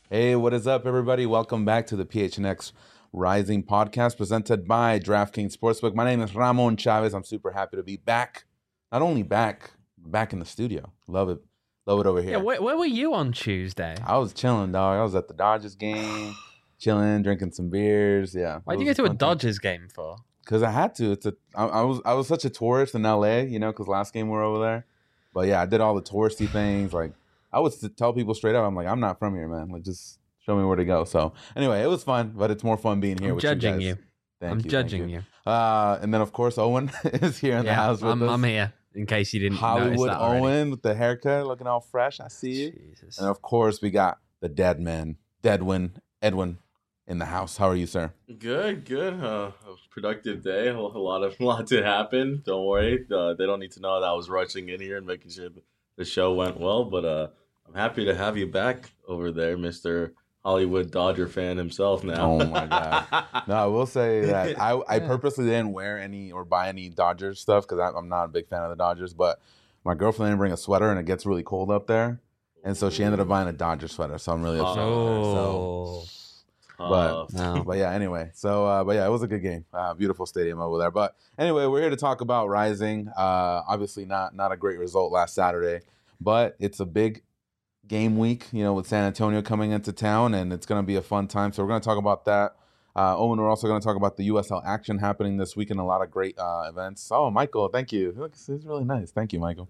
Hey, what is up, everybody? Welcome back to the PHNX Rising podcast presented by DraftKings Sportsbook. My name is Ramon Chavez. I'm super happy to be back. Not only back in the studio. Love it over here. Yeah, where were you on Tuesday? I was chilling, dog. I was at the Dodgers game, chilling, drinking some beers. Yeah. Why'd you go to a Dodgers game for? Because I had to. I was such a tourist in LA, because last game we were over there. But yeah, I did all the touristy things. Like I would tell people straight up, I'm like, I'm not from here, man. Like just show me where to go. So anyway, it was fun, but it's more fun being here with judging you guys. I'm judging you. And then of course Owen is here in the house with us. I'm here in case you didn't Hollywood notice that already. Owen with the haircut, looking all fresh. I see you. Jesus. And of course we got the dead man, Edwin, in the house. How are you, sir? Good. A productive day. A lot to happen. Don't worry. They don't need to know that I was rushing in here and making sure the show went well. But I'm happy to have you back over there, Mr. Hollywood Dodger fan himself now. Oh my God. No, I will say that I purposely didn't wear any or buy any Dodgers stuff because I'm not a big fan of the Dodgers, but my girlfriend didn't bring a sweater and it gets really cold up there. And so she ended up buying a Dodger sweater. So I'm really upset with her. But yeah, anyway. So, but yeah, it was a good game. Beautiful stadium over there. But anyway, we're here to talk about Rising. Obviously not a great result last Saturday, but it's a big game week, with San Antonio coming into town, and it's going to be a fun time. So we're going to talk about that. Owen, we're also going to talk about the USL action happening this week and a lot of great events. Oh, Michael, thank you. Look, this is really nice. Thank you, Michael.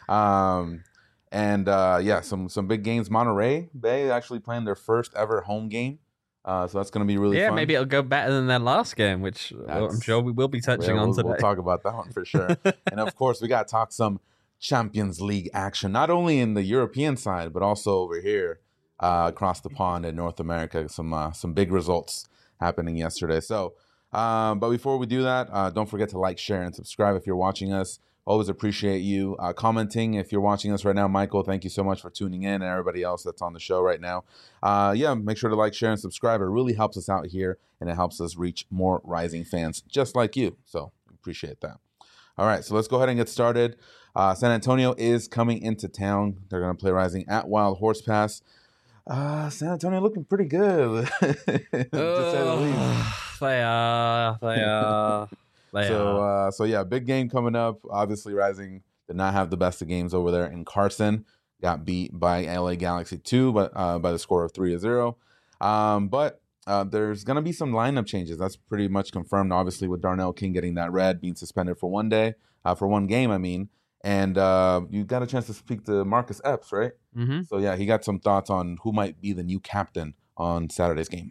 Yeah, some big games. Monterey Bay actually playing their first ever home game. So that's going to be really fun. Yeah, maybe it'll go better than their last game, which I'm sure we will be touching on today. We'll talk about that one for sure. And of course, we got to talk some Champions League action, not only in the European side, but also over here across the pond in North America. Some big results happening yesterday. So, but before we do that, don't forget to like, share, and subscribe if you're watching us. Always appreciate you commenting if you're watching us right now. Michael, thank you so much for tuning in, and everybody else that's on the show right now. Yeah, make sure to like, share, and subscribe. It really helps us out here, and it helps us reach more Rising fans just like you. So appreciate that. All right, so let's go ahead and get started. San Antonio is coming into town. They're going to play Rising at Wild Horse Pass. San Antonio looking pretty good, to say the least. They are. So yeah, big game coming up. Obviously, Rising did not have the best of games over there in Carson. Got beat by LA Galaxy 2, but by the score of 3-0. But there's going to be some lineup changes. That's pretty much confirmed, obviously, with Darnell King getting that red, being suspended for one game, I mean. And you got a chance to speak to Marcus Epps, right? Mm-hmm. So, yeah, he got some thoughts on who might be the new captain on Saturday's game.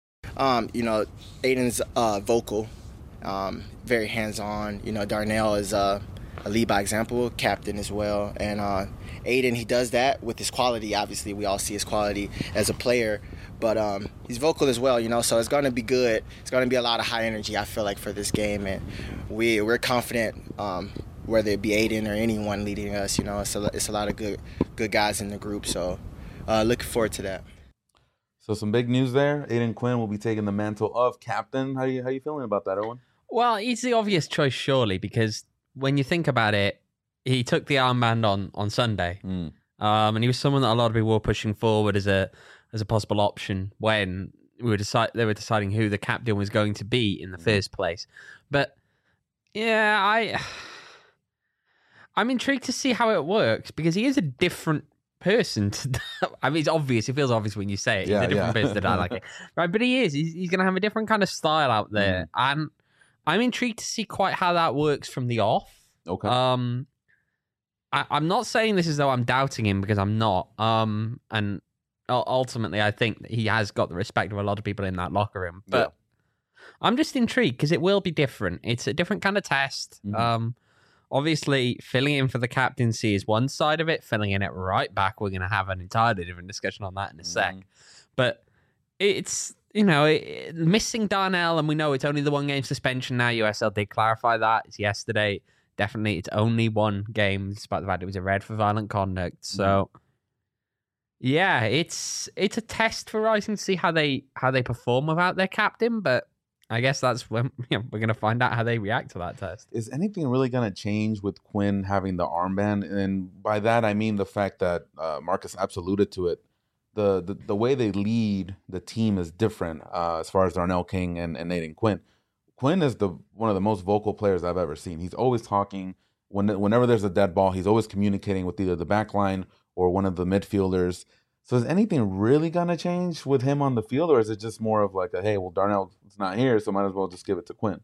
Aiden's vocal, very hands-on. Darnell is a lead by example, captain as well. And Aiden, he does that with his quality. Obviously, we all see his quality as a player. But he's vocal as well, so it's going to be good. It's going to be a lot of high energy, I feel like, for this game. And we're confident, whether it be Aiden or anyone leading us, it's a lot of good guys in the group. So looking forward to that. So some big news there. Aiden Quinn will be taking the mantle of captain. How you feeling about that, Owen? Well, he's the obvious choice, surely, because when you think about it, he took the armband on Sunday. And he was someone that a lot of people were pushing forward as a possible option when they were deciding who the captain was going to be in the first place. But yeah, I'm intrigued to see how it works because he is a different person. I mean, it's obvious. It feels obvious when you say it. He's a different person than I like it. Right, but he is. He's going to have a different kind of style out there. And I'm intrigued to see quite how that works from the off. Okay. I'm not saying this as though I'm doubting him because I'm not. And ultimately, I think that he has got the respect of a lot of people in that locker room. But I'm just intrigued because it will be different. It's a different kind of test. Mm-hmm. Obviously, filling in for the captaincy is one side of it. Filling in at right back, we're going to have an entirely different discussion on that in a sec. But it's, missing Darnell, and we know it's only the one game suspension now. USL did clarify that. It's yesterday. Definitely, it's only one game, despite the fact it was a red for violent conduct. So, yeah, it's a test for Rising to see how they perform without their captain. But I guess that's when we're going to find out how they react to that test. Is anything really going to change with Quinn having the armband? And by that, I mean the fact that Marcus Epps alluded to it. the way they lead the team is different as far as Darnell King and Nathan Quinn. Quinn is one of the most vocal players I've ever seen. He's always talking. Whenever there's a dead ball, he's always communicating with either the back line or one of the midfielders. So is anything really going to change with him on the field, or is it just more of like hey, well, Darnell's not here, so might as well just give it to Quinn?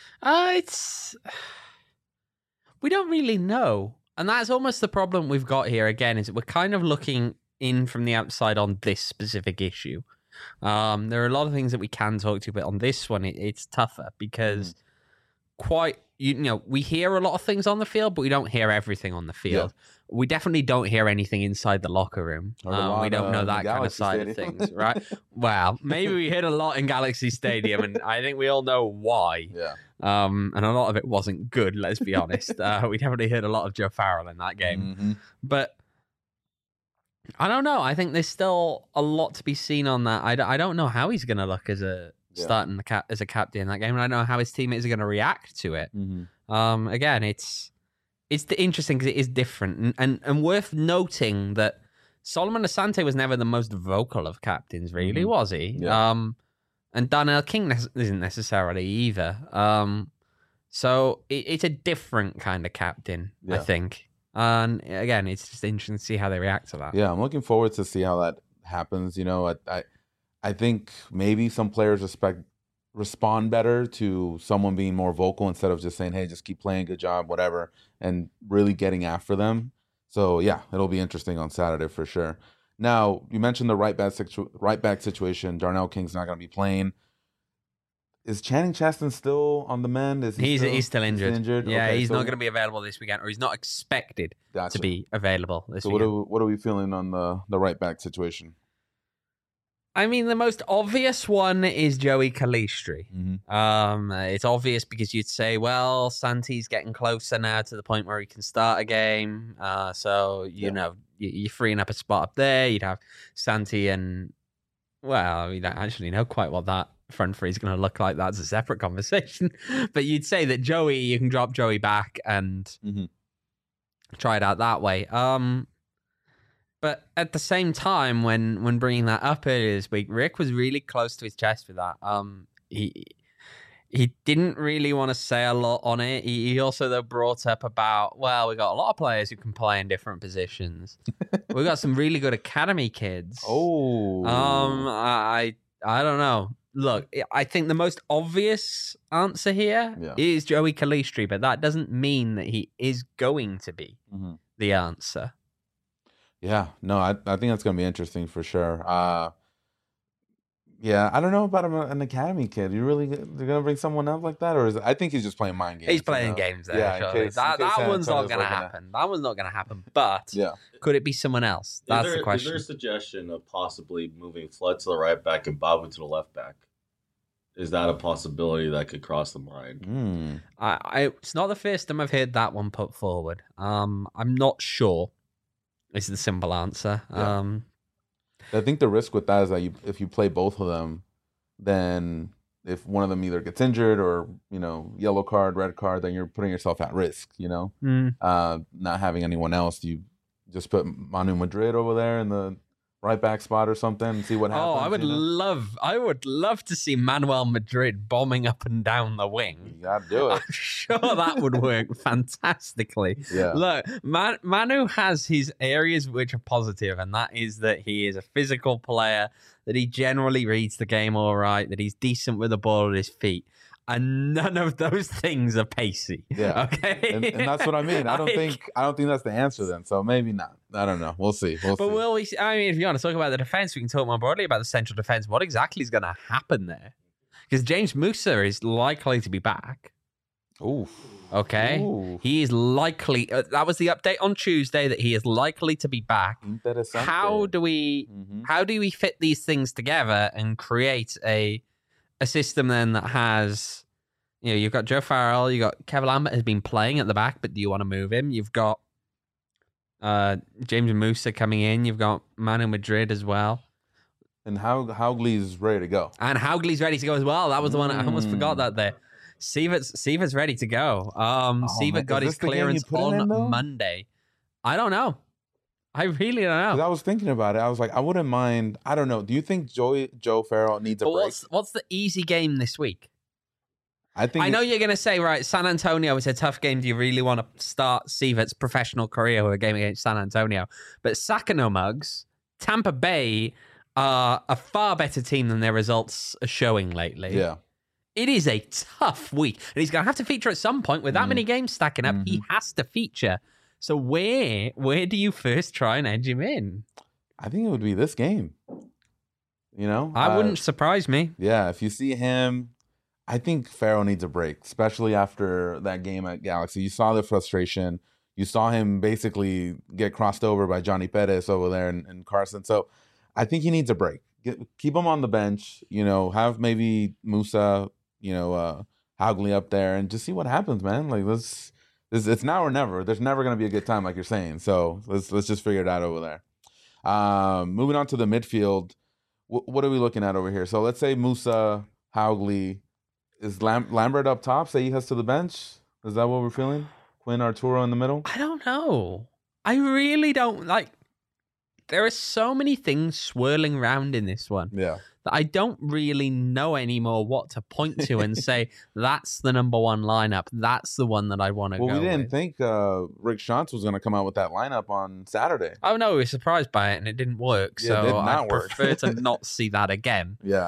We don't really know. And that's almost the problem we've got here again, is that we're kind of looking in from the outside on this specific issue. There are a lot of things that we can talk to, but on this one, it's tougher because we hear a lot of things on the field, but we don't hear everything on the field. Yeah. We definitely don't hear anything inside the locker room. We don't know that kind of side of things, right? Well, maybe we heard a lot in Galaxy Stadium, and I think we all know why. Yeah. And a lot of it wasn't good, let's be honest. We definitely heard a lot of Joe Farrell in that game. Mm-hmm. But I don't know. I think there's still a lot to be seen on that. I don't know how he's going to look as starting as a captain in that game, and I don't know how his teammates are going to react to it. Mm-hmm. Again, it's interesting because it is different, and worth noting that Solomon Asante was never the most vocal of captains, really, mm-hmm. was he? Yeah. And Darnell King isn't necessarily either. So it's a different kind of captain, I think. And again, it's just interesting to see how they react to that. Yeah, I'm looking forward to see how that happens. I think maybe some players respond better to someone being more vocal instead of just saying, hey, just keep playing, good job, whatever, and really getting after them. So, yeah, it'll be interesting on Saturday for sure. Now, you mentioned the right back situation. Darnell King's not going to be playing. Is Channing Cheston still on the mend? He's still injured. Yeah, okay, he's not going to be available this weekend, or he's not expected to be available this weekend. So what are we feeling on the right back situation? I mean, the most obvious one is Joey Calistri. Mm-hmm. It's obvious because you'd say, well, Santi's getting closer now to the point where he can start a game. So, you're freeing up a spot up there. You'd have Santi and, well, we don't actually know quite what that front three is going to look like. That's a separate conversation. But you'd say that you can drop Joey back and try it out that way. But at the same time, when bringing that up earlier this week, Rick was really close to his chest with that. He didn't really want to say a lot on it. He also, though, brought up about, well, we got a lot of players who can play in different positions. We got some really good academy kids. Oh. I don't know. Look, I think the most obvious answer here is Joey Calistri, but that doesn't mean that he is going to be the answer. Yeah, no, I think that's going to be interesting for sure. Yeah, I don't know about an academy kid. They're going to bring someone up like that? Or I think he's just playing mind games. He's playing games there. Yeah, that one's not going to happen. That one's not going to happen. But could it be someone else? That's the question. Is there a suggestion of possibly moving Flood to the right back and Babu to the left back? Is that a possibility that could cross the mind? It's not the first time I've heard that one put forward. I'm not sure. Is the simple answer. Yeah. I think the risk with that is that if you play both of them, then if one of them either gets injured or yellow card, red card, then you're putting yourself at risk. Not having anyone else, you just put Manu Madrid over there in the right back spot or something and see what happens. Oh, I would love to see Manuel Madrid bombing up and down the wing. You gotta do it. I'm sure that would work fantastically. Yeah. Look, Manu has his areas which are positive, and that is that he is a physical player, that he generally reads the game all right, that he's decent with the ball at his feet. And none of those things are pacey. Yeah. Okay. And that's what I mean. I don't think that's the answer then. So maybe not. I don't know. We'll see. But will we? I mean, if you want to talk about the defense, we can talk more broadly about the central defense. What exactly is going to happen there? Because James Musa is likely to be back. Ooh. Okay. Ooh. He is likely. That was the update on Tuesday that he is likely to be back. How do we fit these things together and create a system then that has, you've got Joe Farrell, you've got Kevin Lambert has been playing at the back, but do you want to move him? You've got James Musa coming in. You've got Manu Madrid as well. And Haugley's ready to go. And Haugley's ready to go as well. That was the one I almost forgot that there. Sievert's ready to go. Sievert got his clearance on Monday. I don't know. I really don't know. Because I was thinking about it. I was like, I wouldn't mind. I don't know. Do you think Joe Farrell needs a But break? what's the easy game this week? I know you're going to say, right, San Antonio is a tough game. Do you really want to start Sievert's professional career with a game against San Antonio? But Sacramento Mugs, Tampa Bay are a far better team than their results are showing lately. Yeah. It is a tough week. And he's going to have to feature at some point. With that many games stacking up, he has to feature. So where do you first try and edge him in? I think it would be this game. You know? I wouldn't surprise me. Yeah, if you see him, I think Farrell needs a break, especially after that game at Galaxy. You saw the frustration. You saw him basically get crossed over by Johnny Perez over there and Carson. So I think he needs a break. Keep him on the bench, have maybe Musa, Haugli up there and just see what happens, man. Like, it's now or never. There's never going to be a good time, like you're saying. So let's just figure it out over there. Moving on to the midfield, what are we looking at over here? So let's say Musa, Haugli. Is Lambert up top? Seijas to the bench? Is that what we're feeling? Quinn, Arturo in the middle? I don't know. I really don't like. There are so many things swirling around in this one. Yeah. That I don't really know anymore what to point to and say that's the number one lineup. That's the one that I want to go. Well, we didn't with. think Rick Schantz was going to come out with that lineup on Saturday. Oh no, we were surprised by it and it didn't work. Yeah, so it did not I work. prefer to not see that again. Yeah.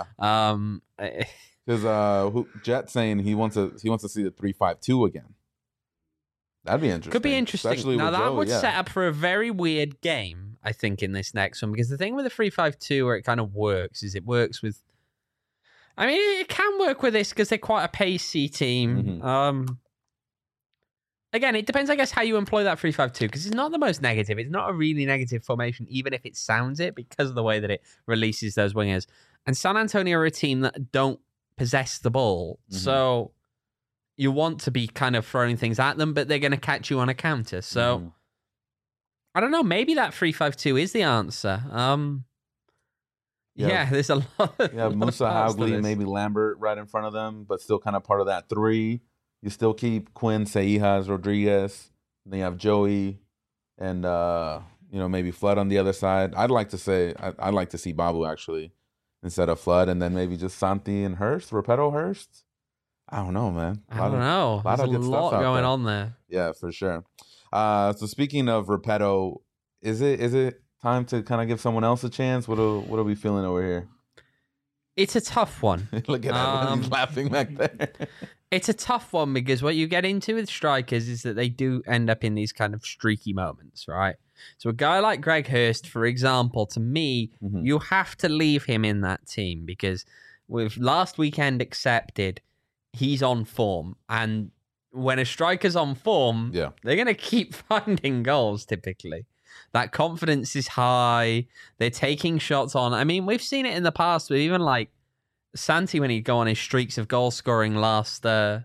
Because Jet saying he wants to see the 3-5-2 again. That'd be interesting. Could be interesting. Especially now with that Joe, would yeah. set up for a very weird game, I think, in this next one. Because the thing with the 3-5-2 where it kind of works is it works with. I mean, it can work with this because they're quite a pacey team. Again, it depends, I guess, how you employ that 3-5-2 because it's not the most negative. It's not a really negative formation, even if it sounds it, because of the way that it releases those wingers. And San Antonio are a team that don't possess the ball. So you want to be kind of throwing things at them, but they're going to catch you on a counter. So I don't know. Maybe that 3-5-2 is the answer. Yeah, there's a lot. Yeah, Musa, Haugli, maybe Lambert right in front of them, but still kind of part of that three. You still keep Quinn, Seijas, Rodriguez. Then you have Joey, and maybe Flood on the other side. I'd like to see Babu actually instead of Flood, and then maybe just Santi and Hurst, Repetto Hurst. I don't know, man. I don't know. There's a lot going on there. Yeah, for sure. So speaking of Repetto, is it time to kind of give someone else a chance? What are we feeling over here? It's a tough one. Look at that. He's laughing back there. It's a tough one because what you get into with strikers is that they do end up in these kind of streaky moments, right? So a guy like Greg Hurst, for example, to me, you have to leave him in that team because with last weekend accepted, he's on form. And when a striker's on form, they're going to keep finding goals typically. That confidence is high. They're taking shots on. I mean, we've seen it in the past with even like Santi when he'd go on his streaks of goal scoring last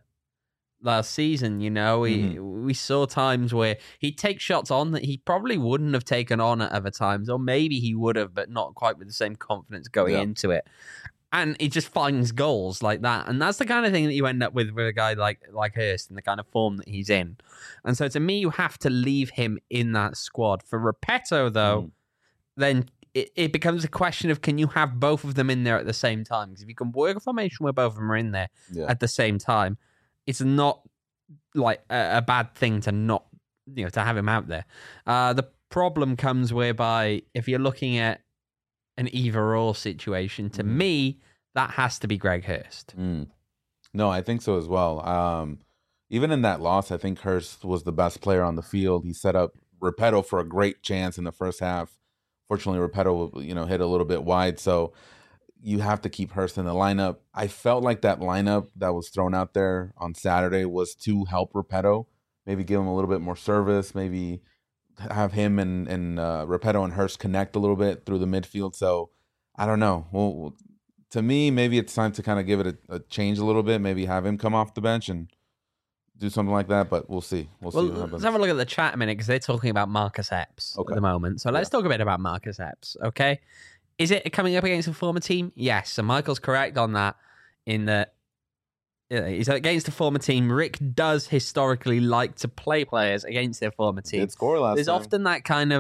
season. We saw times where he'd take shots on that he probably wouldn't have taken on at other times, or maybe he would have, but not quite with the same confidence going into it. And he just finds goals like that. And that's the kind of thing that you end up with a guy like Hurst and the kind of form that he's in. And so to me, you have to leave him in that squad. For Repetto, though, then it becomes a question of can you have both of them in there at the same time? Because if you can work a formation where both of them are in there at the same time, it's not like a bad thing to not, to have him out there. The problem comes whereby if you're looking at an either-or situation, to me, that has to be Greg Hurst. No, I think so as well. Even in that loss, I think Hurst was the best player on the field. He set up Repetto for a great chance in the first half. Fortunately, Repetto, hit a little bit wide, so you have to keep Hurst in the lineup. I felt like that lineup that was thrown out there on Saturday was to help Repetto, maybe give him a little bit more service, maybe have him and Repetto and Hurst connect a little bit through the midfield. So I don't know. Well, to me, maybe it's time to kind of give it a change a little bit. Maybe have him come off the bench and do something like that. But we'll see. We'll see what happens. Let's have a look at the chat a minute because they're talking about Marcus Epps at the moment. So let's talk a bit about Marcus Epps. Okay, is it coming up against a former team? Yes. So Michael's correct on that. In that. He's against a former team. Rick does historically like to play players against their former team. Did score last There's time. often that kind of,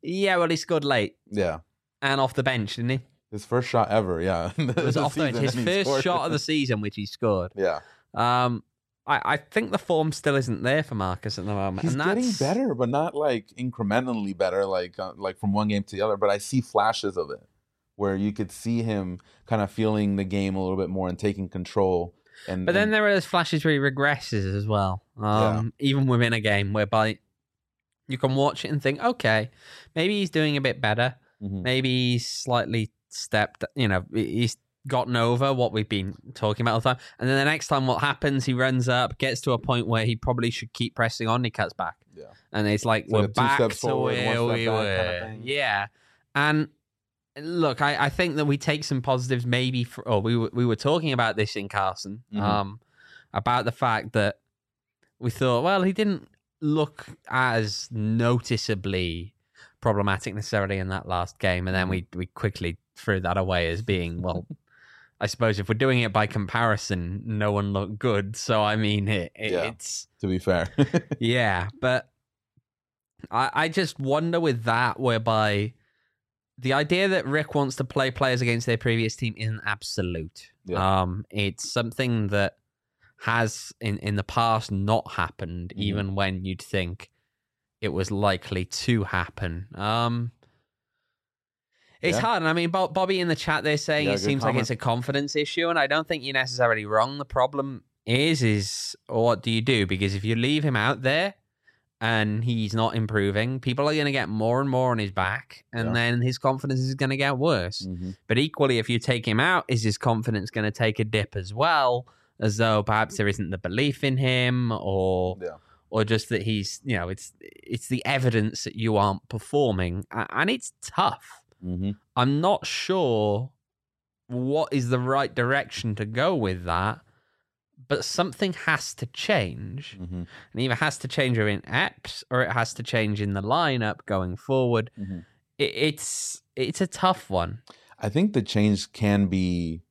Yeah, well, he scored late. Yeah. And off the bench, didn't he? His first shot ever, yeah. It was off the bench. His first shot of the season, which he scored. Yeah. I think the form still isn't there for Marcus at the moment. He's getting better, but not like incrementally better, like from one game to the other. But I see flashes of it where you could see him kind of feeling the game a little bit more and taking control. But then there are those flashes where he regresses as well, even within a game, whereby you can watch it and think, okay, maybe he's doing a bit better. Mm-hmm. Maybe he's slightly stepped, he's gotten over what we've been talking about all the time. And then the next time what happens, he runs up, gets to a point where he probably should keep pressing on, he cuts back. Yeah. And it's like, we're back to where we were. Kind of yeah. And look, I think that we take some positives maybe we were talking about this in Carson, about the fact that we thought, well, he didn't look as noticeably problematic necessarily in that last game. And then we quickly threw that away as being, well, I suppose if we're doing it by comparison, no one looked good. So, I mean, it's... To be fair. Yeah, but I just wonder with that, whereby the idea that Rick wants to play players against their previous team isn't absolute. Yeah. It's something that has, in the past, not happened, even when you'd think it was likely to happen. It's hard. And I mean, Bobby in the chat, they're saying it seems like it's a confidence issue, and I don't think you're necessarily wrong. The problem is what do you do? Because if you leave him out there and he's not improving, people are going to get more and more on his back, and then his confidence is going to get worse. But equally, if you take him out, is his confidence going to take a dip as well, as though perhaps there isn't the belief in him, or just that he's, it's the evidence that you aren't performing, and it's tough. I'm not sure what is the right direction to go with that, but something has to change. And either has to change in Epps or it has to change in the lineup going forward. It's a tough one. I think the change can be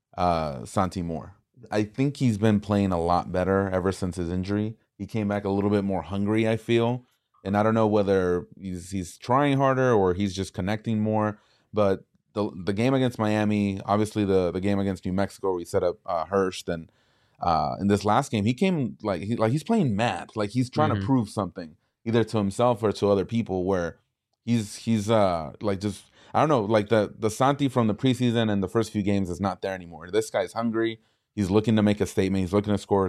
Santi Moore. I think he's been playing a lot better ever since his injury. He came back a little bit more hungry, I feel. And I don't know whether he's trying harder or he's just connecting more. But the game against Miami, obviously the game against New Mexico where he set up Hurst, and in this last game, he came like he's playing mad. Like he's trying to prove something, either to himself or to other people, where he's like just, I don't know, like the Santi from the preseason and the first few games is not there anymore. This guy's hungry. He's looking to make a statement. He's looking to score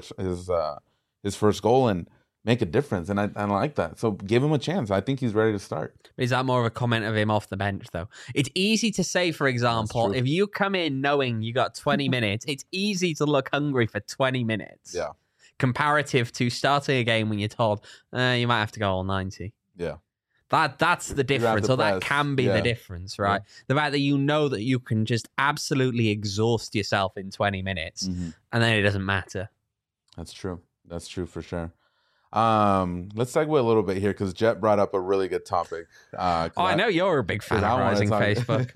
his first goal and make a difference, and I like that. So give him a chance. I think he's ready to start. Is that more of a comment of him off the bench, though? It's easy to say, for example, if you come in knowing you got 20 minutes, it's easy to look hungry for 20 minutes. Yeah. Comparative to starting a game when you're told, you might have to go all 90. Yeah. That's the difference, or that can be the difference, right? Yeah. The fact that you know that you can just absolutely exhaust yourself in 20 minutes, and then it doesn't matter. That's true. That's true for sure. Let's segue a little bit here because Jet brought up a really good topic. I know you're a big fan of Rising Facebook.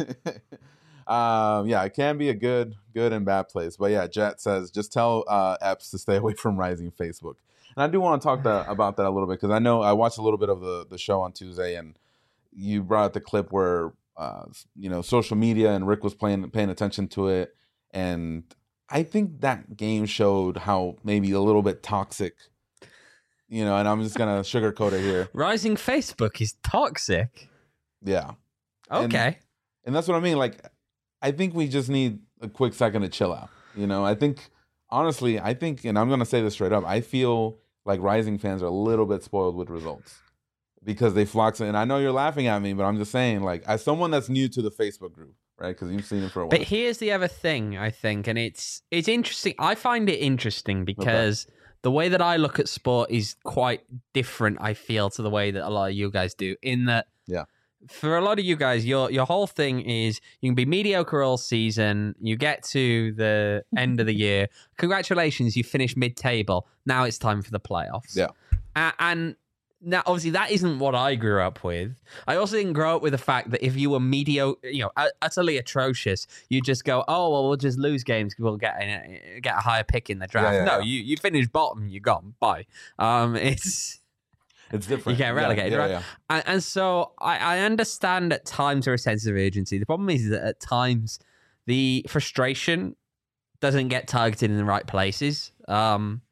It can be a good and bad place. But yeah, Jet says, just tell Epps to stay away from Rising Facebook. And I do want to talk about that a little bit because I know I watched a little bit of the show on Tuesday, and you brought up the clip where social media and Rick was paying attention to it, and I think that game showed how maybe a little bit toxic. And I'm just going to sugarcoat it here. Rising Facebook is toxic. Yeah. Okay. And that's what I mean. Like, I think we just need a quick second to chill out. I think, honestly, and I'm going to say this straight up, I feel like Rising fans are a little bit spoiled with results because they flock. And I know you're laughing at me, but I'm just saying, like, as someone that's new to the Facebook group, right? Because you've seen it for a while. But here's the other thing, I think, and it's interesting. I find it interesting because... Okay. The way that I look at sport is quite different, I feel, to the way that a lot of you guys do. In that, for a lot of you guys, your whole thing is you can be mediocre all season. You get to the end of the year. Congratulations, you finished mid-table. Now it's time for the playoffs. Yeah. And now, obviously, that isn't what I grew up with. I also didn't grow up with the fact that if you were mediocre, utterly atrocious, you just go, oh, well, we'll just lose games because we'll get a higher pick in the draft. You finish bottom, you're gone. Bye. It's different. You get relegated, right? Yeah. And so I understand at times there is a sense of urgency. The problem is that at times the frustration doesn't get targeted in the right places. And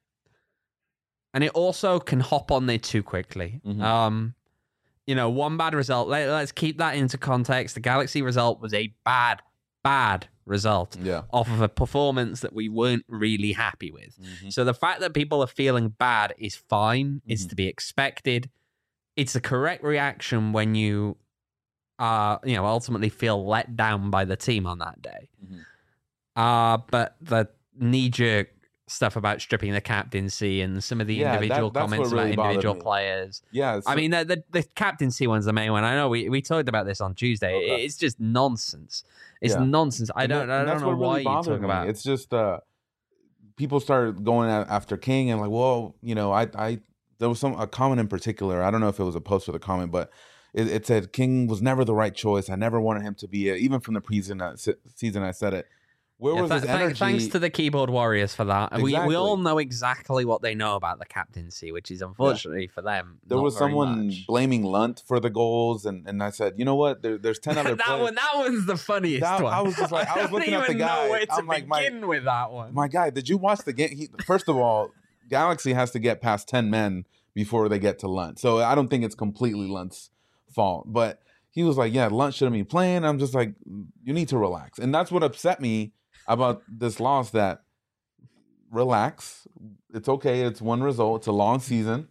it also can hop on there too quickly. Mm-hmm. One bad result. Let's keep that into context. The Galaxy result was a bad result off of a performance that we weren't really happy with. Mm-hmm. So the fact that people are feeling bad is fine. It's to be expected. It's the correct reaction when you ultimately feel let down by the team on that day. Mm-hmm. But the knee-jerk stuff about stripping the captaincy and some of the individual comments really about individual players. Yeah, I mean, the captaincy one's the main one. I know we talked about this on Tuesday. Okay. It's just nonsense. It's nonsense. I don't know why you talk about it. It's just people started going after King and like, well, there was a comment in particular. I don't know if it was a post or the comment, but it said King was never the right choice. I never wanted him to be it. Even from the season, I said it. Where was his energy? Thanks to the keyboard warriors for that. Exactly. We all know exactly what they know about the captaincy, which is unfortunately for them. There was someone much. blaming Lunt for the goals, and I said, you know what? There's 10 other players. That one's the funniest one. I was just like, I was looking at the guy. Know where to begin with that one. My guy, did you watch the game? First of all, Galaxy has to get past 10 men before they get to Lunt. So I don't think it's completely Lunt's fault. But he was like, yeah, Lunt shouldn't be playing. I'm just like, you need to relax. And that's what upset me about this loss, that relax. It's okay. It's one result. It's a long season,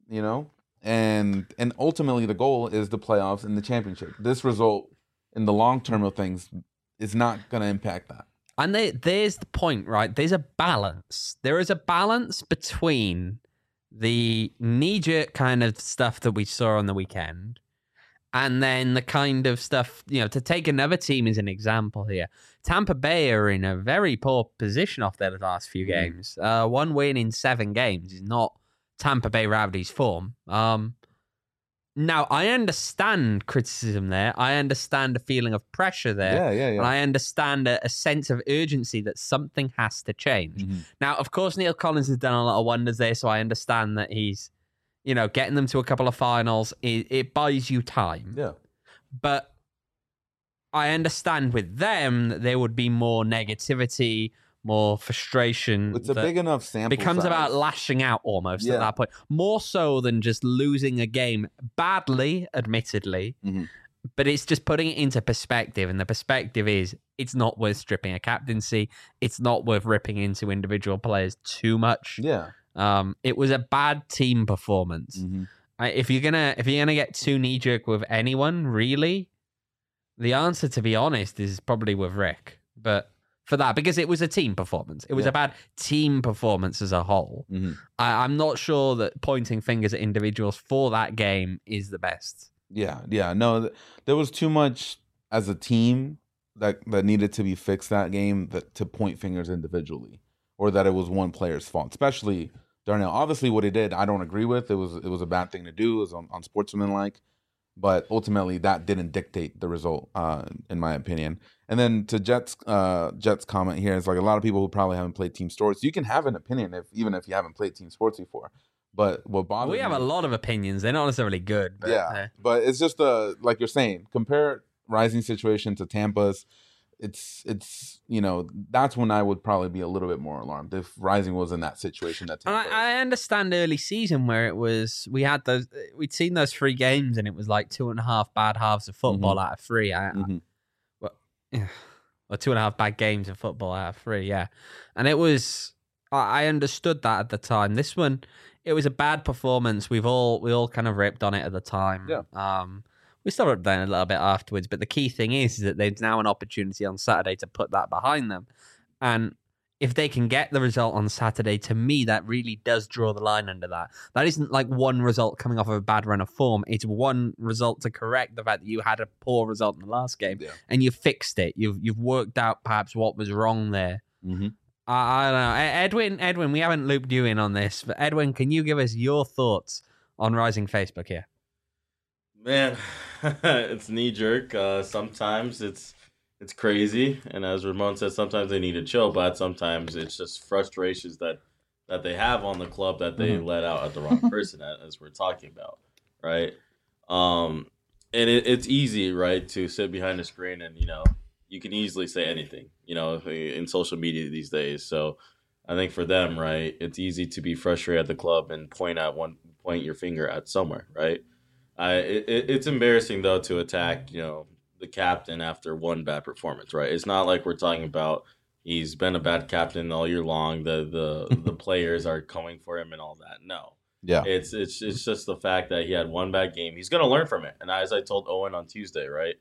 and ultimately the goal is the playoffs and the championship. This result in the long term of things is not going to impact that. And there's the point, right? There's a balance. There is a balance between the knee-jerk kind of stuff that we saw on the weekend and then the kind of stuff, to take another team as an example here. Tampa Bay are in a very poor position off their last few games. One win in 7 games is not Tampa Bay Rowdies' form. Now, I understand criticism there. I understand a feeling of pressure there. Yeah. And I understand a sense of urgency that something has to change. Mm-hmm. Now, of course, Neil Collins has done a lot of wonders there, so I understand that he's getting them to a couple of finals, it buys you time. Yeah. But I understand with them that there would be more negativity, more frustration. It's a big enough sample becomes size. About lashing out almost at that point. More so than just losing a game badly, admittedly. Mm-hmm. But it's just putting it into perspective. And the perspective is it's not worth stripping a captaincy. It's not worth ripping into individual players too much. Yeah. It was a bad team performance. Mm-hmm. If you're gonna get too knee jerk with anyone, really, the answer, to be honest, is probably with Rick. But for that, because it was a team performance, it was a bad team performance as a whole. Mm-hmm. I'm not sure that pointing fingers at individuals for that game is the best. Yeah. No, there was too much as a team that needed to be fixed that game to point fingers individually, or that it was one player's fault, especially Darnell. Obviously, what he did, I don't agree with. It was a bad thing to do. It was unsportsmanlike, but ultimately that didn't dictate the result, in my opinion. And then to Jet's comment here, it's like a lot of people who probably haven't played team sports. You can have an opinion even if you haven't played team sports before. But what bothers me, we have a lot of opinions. They're not necessarily good. But, but it's just like you're saying, compare Rising situation to Tampa's. It's that's when I would probably be a little bit more alarmed if Rising was in that situation. That I understand early season where it was we'd seen those 3 games and it was like 2.5 bad halves of football out of 3. Or 2.5 bad games of football out of 3. Yeah, and it was. I understood that at the time. This one, it was a bad performance. We all kind of ripped on it at the time. Yeah. We still ripped on it a little bit afterwards, but the key thing is that there's now an opportunity on Saturday to put that behind them. And if they can get the result on Saturday, to me, that really does draw the line under that. That isn't like one result coming off of a bad run of form. It's one result to correct the fact that you had a poor result in the last game, and you fixed it. You've worked out perhaps what was wrong there. Mm-hmm. I don't know. Edwin, we haven't looped you in on this, but Edwin, can you give us your thoughts on Rising Facebook here? Man, it's knee-jerk. Sometimes it's crazy, and as Ramon said, sometimes they need to chill, but sometimes it's just frustrations that that they have on the club that they let out at the wrong person, as we're talking about, right? And it's easy, right, to sit behind a screen and, you can easily say anything, in social media these days. So I think for them, right, it's easy to be frustrated at the club and point your finger at somewhere, right? It's embarrassing, though, to attack, the captain after one bad performance, right? It's not like we're talking about he's been a bad captain all year long. The players are coming for him and all that. No. Yeah. It's just the fact that he had one bad game. He's going to learn from it. And as I told Owen on Tuesday, right,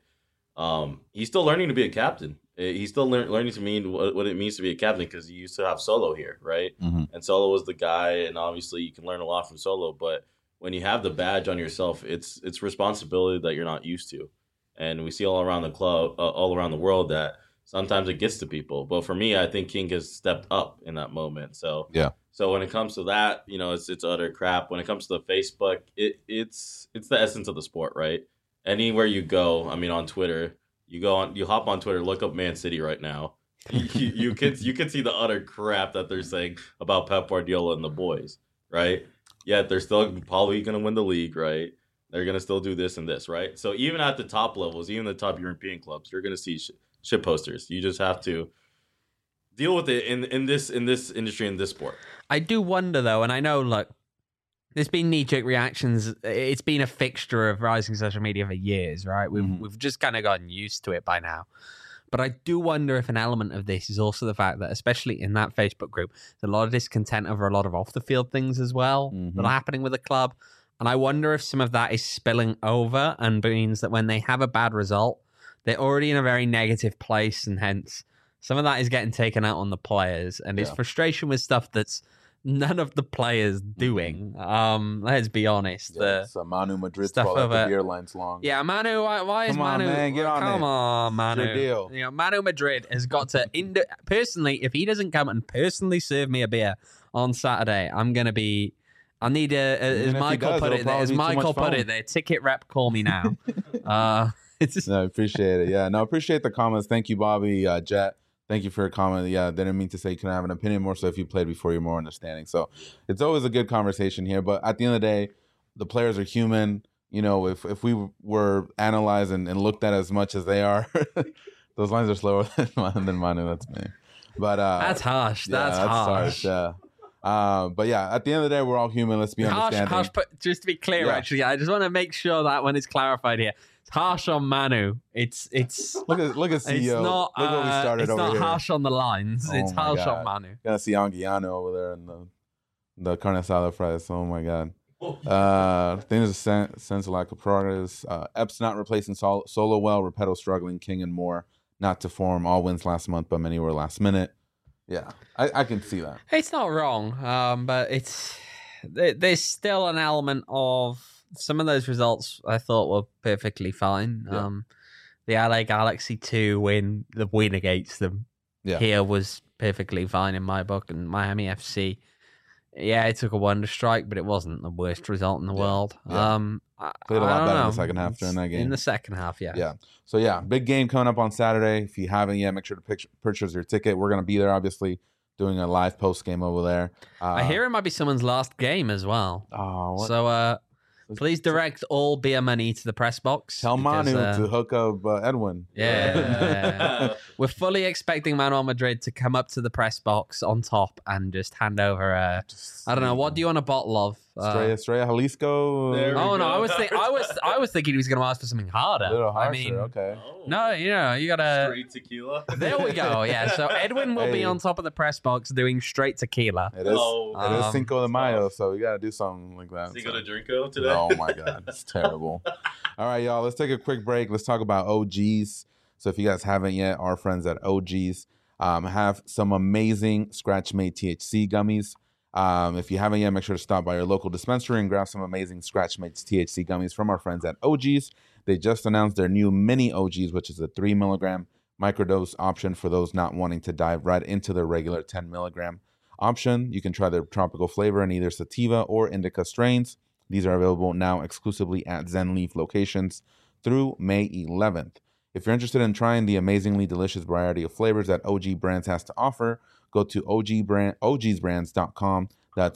he's still learning to be a captain. He's still learning to mean what it means to be a captain because he used to have Solo here, right? And Solo was the guy, and obviously you can learn a lot from Solo. But when you have the badge on yourself, it's responsibility that you're not used to. And we see all around the club, all around the world that sometimes it gets to people. But for me, I think King has stepped up in that moment. So yeah. So when it comes to that, it's utter crap. When it comes to the Facebook, it's the essence of the sport, right? Anywhere you go, I mean, on Twitter, you hop on Twitter, look up Man City right now. You can see the utter crap that they're saying about Pep Guardiola and the boys, right? Yet they're still probably going to win the league, right? They're going to still do this and this, right? So even at the top levels, even the top European clubs, you're going to see shit posters. You just have to deal with it in this industry, in this sport. I do wonder, though, and I know, look, there's been knee-jerk reactions. It's been a fixture of rising social media for years, right? We've just kind of gotten used to it by now. But I do wonder if an element of this is also the fact that, especially in that Facebook group, there's a lot of discontent over a lot of off-the-field things as well that are happening with the club. And I wonder if some of that is spilling over and means that when they have a bad result, they're already in a very negative place, and hence some of that is getting taken out on the players. And it's frustration with stuff that's none of the players doing. Let's be honest. Yeah, so Manu Madrid stuff over the beer lines long. Yeah, Manu. Why is Manu? On, man, get on come it. on, Manu. It's your deal. Manu Madrid has got to personally. If he doesn't come and personally serve me a beer on Saturday, I'm gonna be. I need as Michael put it. As Michael put it, there. Ticket rep, call me now. It's just... No, I appreciate it. Yeah, no, I appreciate the comments. Thank you, Bobby, Jet. Thank you for your comment. Yeah, didn't mean to say you can have an opinion, more so if you played before, you're more understanding. So it's always a good conversation here. But at the end of the day, the players are human. If we were analyzed and looked at as much as they are, those lines are slower than Manu. That's me. But that's harsh. Yeah, that's harsh. Yeah. But yeah, at the end of the day, we're all human. Let's be understanding. Harsh, but just to be clear, actually, I just want to make sure that when it's clarified here, it's harsh on Manu. It's look at CEO. It's not, look what we started over here. It's not harsh on the lines. It's harsh on Manu. You're gonna see Anguiano over there in the carne asada fries. Oh my god. Things sense of lack of progress. Epps not replacing Solo well. Repetto struggling. King and Moore not to form. All wins last month, but many were last minute. Yeah, I can see that. It's not wrong, but there's still an element of some of those results I thought were perfectly fine. Yeah. The LA Galaxy 2 win, the win against them here was perfectly fine in my book, and Miami FC. Yeah, it took a wonder strike, but it wasn't the worst result in the world. Yeah. Played a lot better in the second half during that game. In the second half, yeah. Yeah. So, yeah, big game coming up on Saturday. If you haven't yet, make sure to purchase your ticket. We're going to be there, obviously, doing a live post game over there. I hear it might be someone's last game as well. Oh, what? So, please direct all beer money to the press box. Tell Manu to hook up Edwin. Yeah. We're fully expecting Manuel Madrid to come up to the press box on top and just hand over I don't know, what do you want a bottle of? Estrella Jalisco. No, I was thinking he was going to ask for something harder. A little harsher, I mean, okay. No, you got to straight tequila. There we go. Yeah, so Edwin will be on top of the press box doing straight tequila. It is Cinco de Mayo, so we got to do something like that. Cinco de Drinko today. Oh my god, it's terrible. All right, y'all, let's take a quick break. Let's talk about OGs. So if you guys haven't yet, our friends at OGs have some amazing scratch-made THC gummies. If you haven't yet, make sure to stop by your local dispensary and grab some amazing scratch-made THC gummies from our friends at OGs. They just announced their new mini OGs, which is a 3 milligram microdose option for those not wanting to dive right into their regular 10 milligram option. You can try their tropical flavor in either sativa or indica strains. These are available now exclusively at Zen Leaf locations through May 11th. If you're interested in trying the amazingly delicious variety of flavors that OG Brands has to offer, go to ogsbrands.com. That's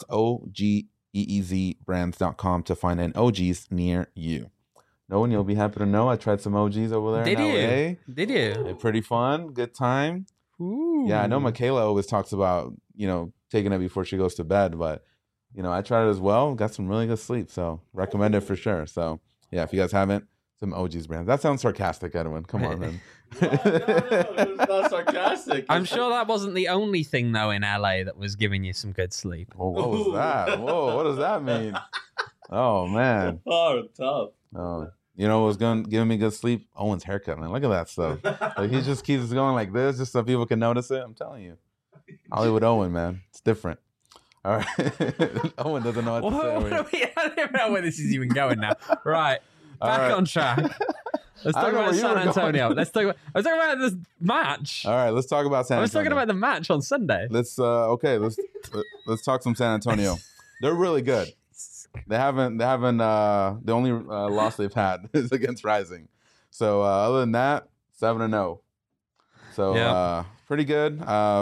OGEEZbrands.com to find an OG's near you. No one, you'll be happy to know I tried some OGs over there in LA. Did you? They're pretty fun. Good time. Ooh. Yeah, I know Michaela always talks about, taking it before she goes to bed, but, I tried it as well. Got some really good sleep, so recommend it for sure. So, yeah, if you guys haven't, some OG's Brands. That sounds sarcastic, Edwin. Come on, man. No, it's not sarcastic. I'm sure that wasn't the only thing, though, in LA that was giving you some good sleep. Whoa, what was that? Whoa, what does that mean? Oh, man. Oh, tough. Oh, what was giving me good sleep? Owen's haircut, man. Look at that stuff. Like, he just keeps going like this just so people can notice it. I'm telling you. Hollywood Owen, man. It's different. All right. Owen doesn't know what to say. I don't know where this is even going now. Right. Back right. on track. Let's talk about San Antonio. I was talking about this match. All right, let's talk about San Antonio. I was talking about the match on Sunday. Let's talk some San Antonio. They're really good. They haven't the only loss they've had is against Rising. So other than that, 7-0. So pretty good.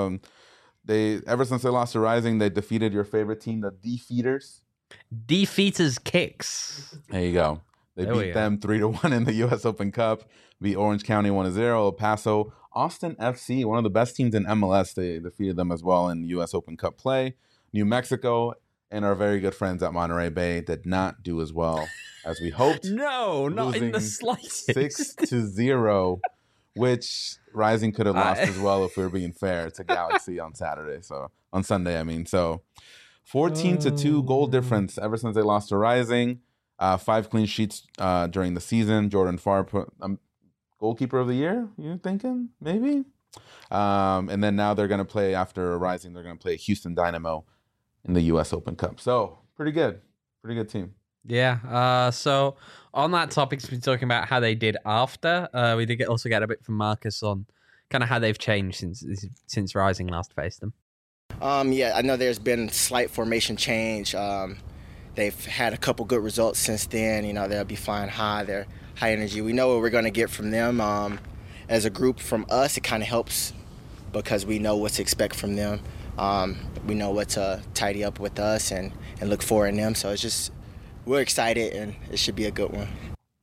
Ever since they lost to Rising, they defeated your favorite team, the Defeaters. Defeaters Kicks. There you go. They beat them 3-1 in the U.S. Open Cup. Beat Orange County 1-0. El Paso, Austin FC, one of the best teams in MLS. They defeated them as well in U.S. Open Cup play. New Mexico and our very good friends at Monterey Bay did not do as well as we hoped. No, not in the slightest. 6-0, which Rising could have lost as well if we were being fair to Galaxy on Saturday. So on Sunday, I mean. So 14-2 goal difference ever since they lost to Rising. 5 clean sheets during the season. Jordan Farr goalkeeper of the year, you thinking? Maybe? And then now they're going to play, after Rising, they're going to play Houston Dynamo in the U.S. Open Cup. So, pretty good. Pretty good team. Yeah. So, on that topic, we've been talking about how they did after. We did also get a bit from Marcus on kind of how they've changed since Rising last faced them. Yeah, I know there's been slight formation change. They've had a couple good results since then. They'll be flying high. They're high energy. We know what we're going to get from them. As a group, from us, it kind of helps because we know what to expect from them. We know what to tidy up with us and look for in them. So it's just, we're excited, and it should be a good one.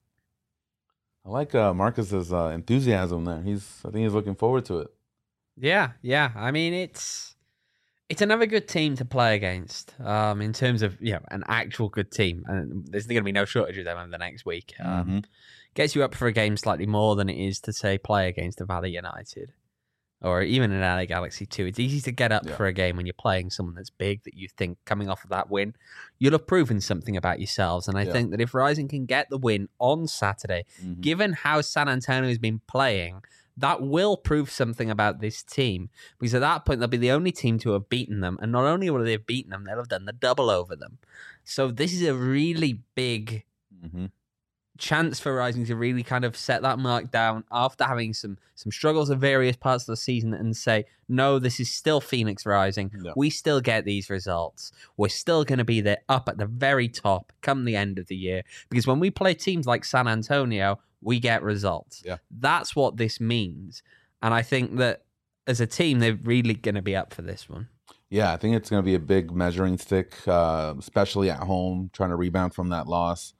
I like Marcus's enthusiasm there. I think he's looking forward to it. Yeah. I mean, it's another good team to play against in terms of an actual good team. And there's going to be no shortage of them over the next week. Gets you up for a game slightly more than it is to, say, play against a Valley United or even an LA Galaxy 2. It's easy to get up for a game when you're playing someone that's big that you think coming off of that win, you'll have proven something about yourselves. And I think that if Rising can get the win on Saturday, given how San Antonio has been playing, that will prove something about this team, because at that point they'll be the only team to have beaten them, and not only will they have beaten them, they'll have done the double over them. So this is a really big chance for Rising to really kind of set that mark down after having some struggles in various parts of the season and say, no, this is still Phoenix Rising. No. We still get these results. We're still going to be there up at the very top come the end of the year, because when we play teams like San Antonio, we get results. Yeah. That's what this means. And I think that as a team, they're really going to be up for this one. Yeah, I think it's going to be a big measuring stick, especially at home, trying to rebound from that loss.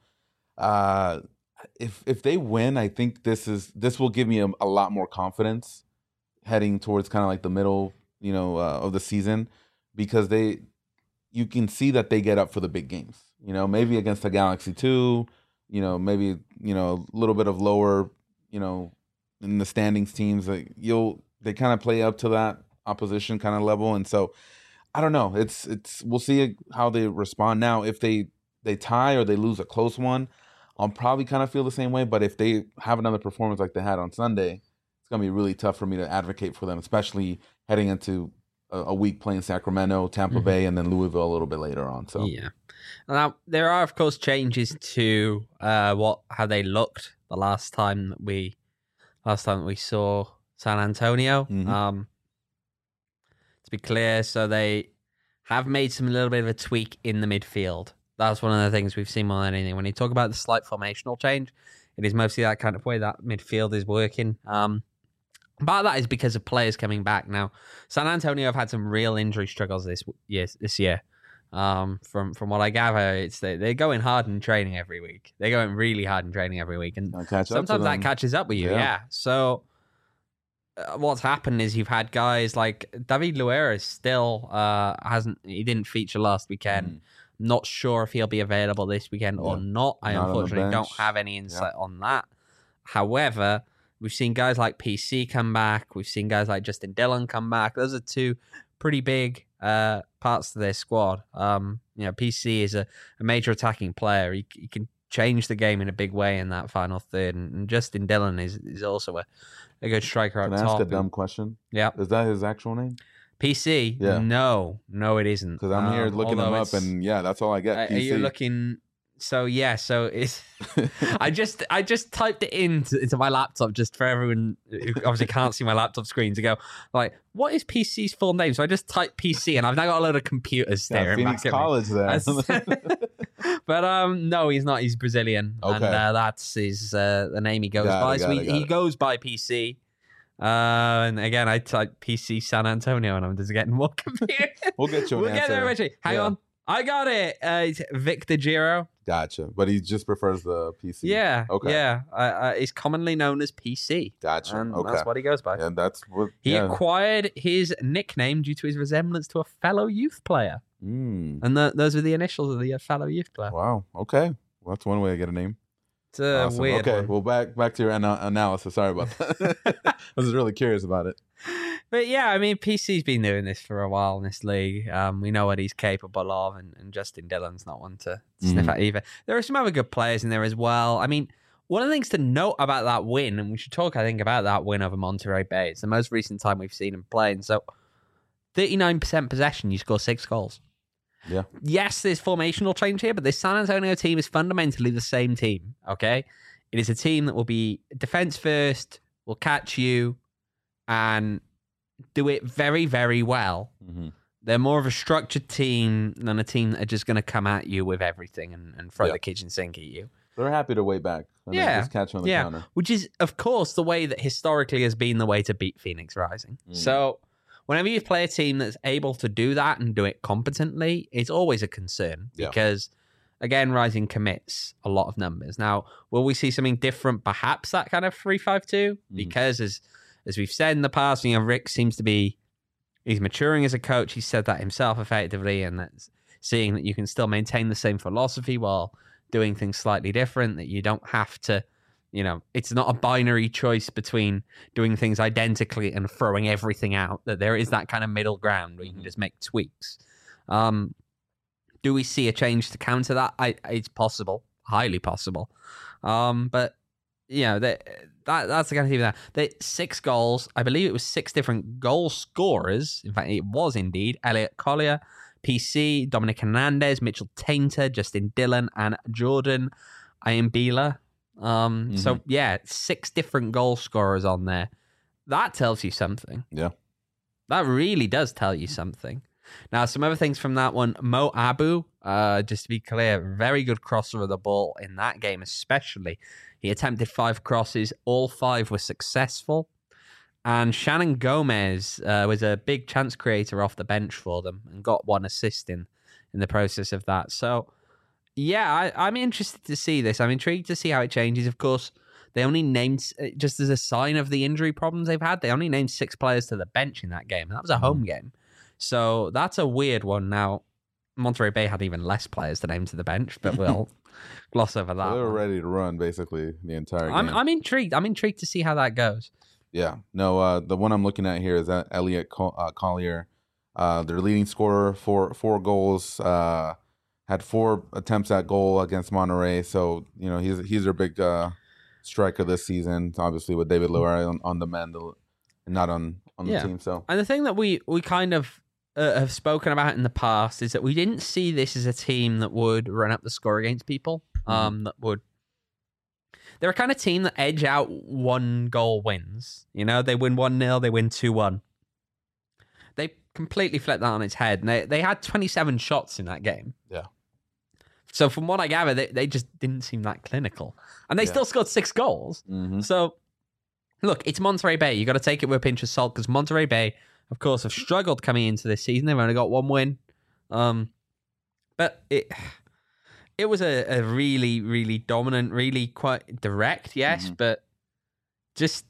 If they win, I think this will give me a lot more confidence heading towards kind of like the middle, of the season, because you can see that they get up for the big games. Maybe against the Galaxy 2, maybe a little bit of lower, in the standings teams. They kind of play up to that opposition kind of level, and so I don't know. We'll see how they respond. Now, if they tie or they lose a close one, I'll probably kind of feel the same way. But if they have another performance like they had on Sunday, it's gonna be really tough for me to advocate for them, especially heading into a week playing Sacramento, Tampa Bay, and then Louisville a little bit later on. So yeah. Now there are of course changes to how they looked the last time that we saw San Antonio. To be clear, so they have made some little bit of a tweak in the midfield. That's one of the things we've seen more than anything. When you talk about the slight formational change, it is mostly that kind of way that midfield is working. Part of that is because of players coming back. Now, San Antonio have had some real injury struggles this year. From what I gather, they're going hard in training every week. They're going really hard in training every week, and sometimes that catches up with you. Yeah. So what's happened is you've had guys like David Luiz still he didn't feature last weekend. Not sure if he'll be available this weekend or not. I unfortunately don't have any insight on that. However, we've seen guys like PC come back. We've seen guys like Justin Dillon come back. Those are two pretty big parts to their squad. PC is a major attacking player. He can change the game in a big way in that final third. And Justin Dillon is also a good striker up top. Can I ask a dumb question? Yeah. Is that his actual name? PC? Yeah. No, it isn't. Because I'm here looking him up, and that's all I get. PC. Are you looking? So it's. I just typed it into my laptop just for everyone who obviously can't see my laptop screen to go like, what is PC's full name? So I just typed PC, and I've now got a load of computers staring Phoenix back at College me. there. But no, he's not. He's Brazilian, and that's his the name he goes by. So he goes by PC. And again, I typed PC San Antonio, and I'm just getting more confused. We'll get you an answer. Get there eventually. Hang on. I got it. It's Victor Giro. Gotcha. But he just prefers the PC. Yeah. Okay. Yeah. He's commonly known as PC. Gotcha. And okay. that's what he goes by. And that's what he acquired his nickname due to his resemblance to a fellow youth player. And those are the initials of the fellow youth player. Wow. Okay. Well, that's one way to get a name. It's a weird Okay. one. Well, back to your analysis. Sorry about that. I was really curious about it. But yeah, I mean, PC's been doing this for a while in this league. We know what he's capable of, and Justin Dillon's not one to sniff at either. There are some other good players in there as well. I mean, one of the things to note about that win, and we should talk, I think, about that win over Monterrey Bay. It's the most recent time we've seen him playing. So, 39% possession, you score 6 goals. Yeah. Yes, there's formational change here, but this San Antonio team is fundamentally the same team, okay? It is a team that will be defense first, will catch you, and do it very, very well. They're more of a structured team than a team that are just going to come at you with everything and throw the kitchen sink at you. They're happy to wait back. And just catch on the counter. Which is, of course, the way that historically has been the way to beat Phoenix Rising. So whenever you play a team that's able to do that and do it competently, it's always a concern because, again, Rising commits a lot of numbers. Now, will we see something different, perhaps that kind of 3-5-2? Because as we've said in the past, Rick seems to be, he's maturing as a coach. He said that himself effectively, and that's seeing that you can still maintain the same philosophy while doing things slightly different, that you don't have to, it's not a binary choice between doing things identically and throwing everything out, that there is that kind of middle ground where you can just make tweaks. Do we see a change to counter that? It's possible, highly possible. But, that's the kind of team that they 6 goals. I believe it was 6 different goal scorers. In fact, it was indeed Elliot Collier, PC, Dominic Hernandez, Mitchell Tainter, Justin Dillon, and Jordan Ayambila. So 6 different goal scorers on there. That tells you something. Yeah. That really does tell you something. Now, some other things from that one. Mo Abu, just to be clear, very good crosser of the ball in that game, especially. He attempted 5 crosses. All 5 were successful. And Shannon Gomez was a big chance creator off the bench for them and got 1 assist in the process of that. So, I'm interested to see this. I'm intrigued to see how it changes. Of course, they only named, just as a sign of the injury problems they've had, they only named 6 players to the bench in that game. And that was a home game. So that's a weird one. Now, Monterrey Bay had even less players to name to the bench, but we'll gloss over that. They were ready to run basically the entire game. I'm intrigued. I'm intrigued to see how that goes. Yeah. No, the one I'm looking at here is that Elliot Collier, their leading scorer, 4 goals, had 4 attempts at goal against Monterrey. So, he's their big striker this season, obviously with David Luiz on the mend and not on the team. So, and the thing that we kind of have spoken about in the past is that we didn't see this as a team that would run up the score against people. They're a kind of team that edge out 1 goal wins. They win 1-0, they win 2-1. They completely flipped that on its head. And they had 27 shots in that game. Yeah. So from what I gather, they just didn't seem that clinical. And they still scored 6 goals. Mm-hmm. So, look, it's Monterey Bay. You got to take it with a pinch of salt because Monterey Bay, of course, have struggled coming into this season. They've only got 1 win. But it was a really, really dominant, really quite direct, yes, but just,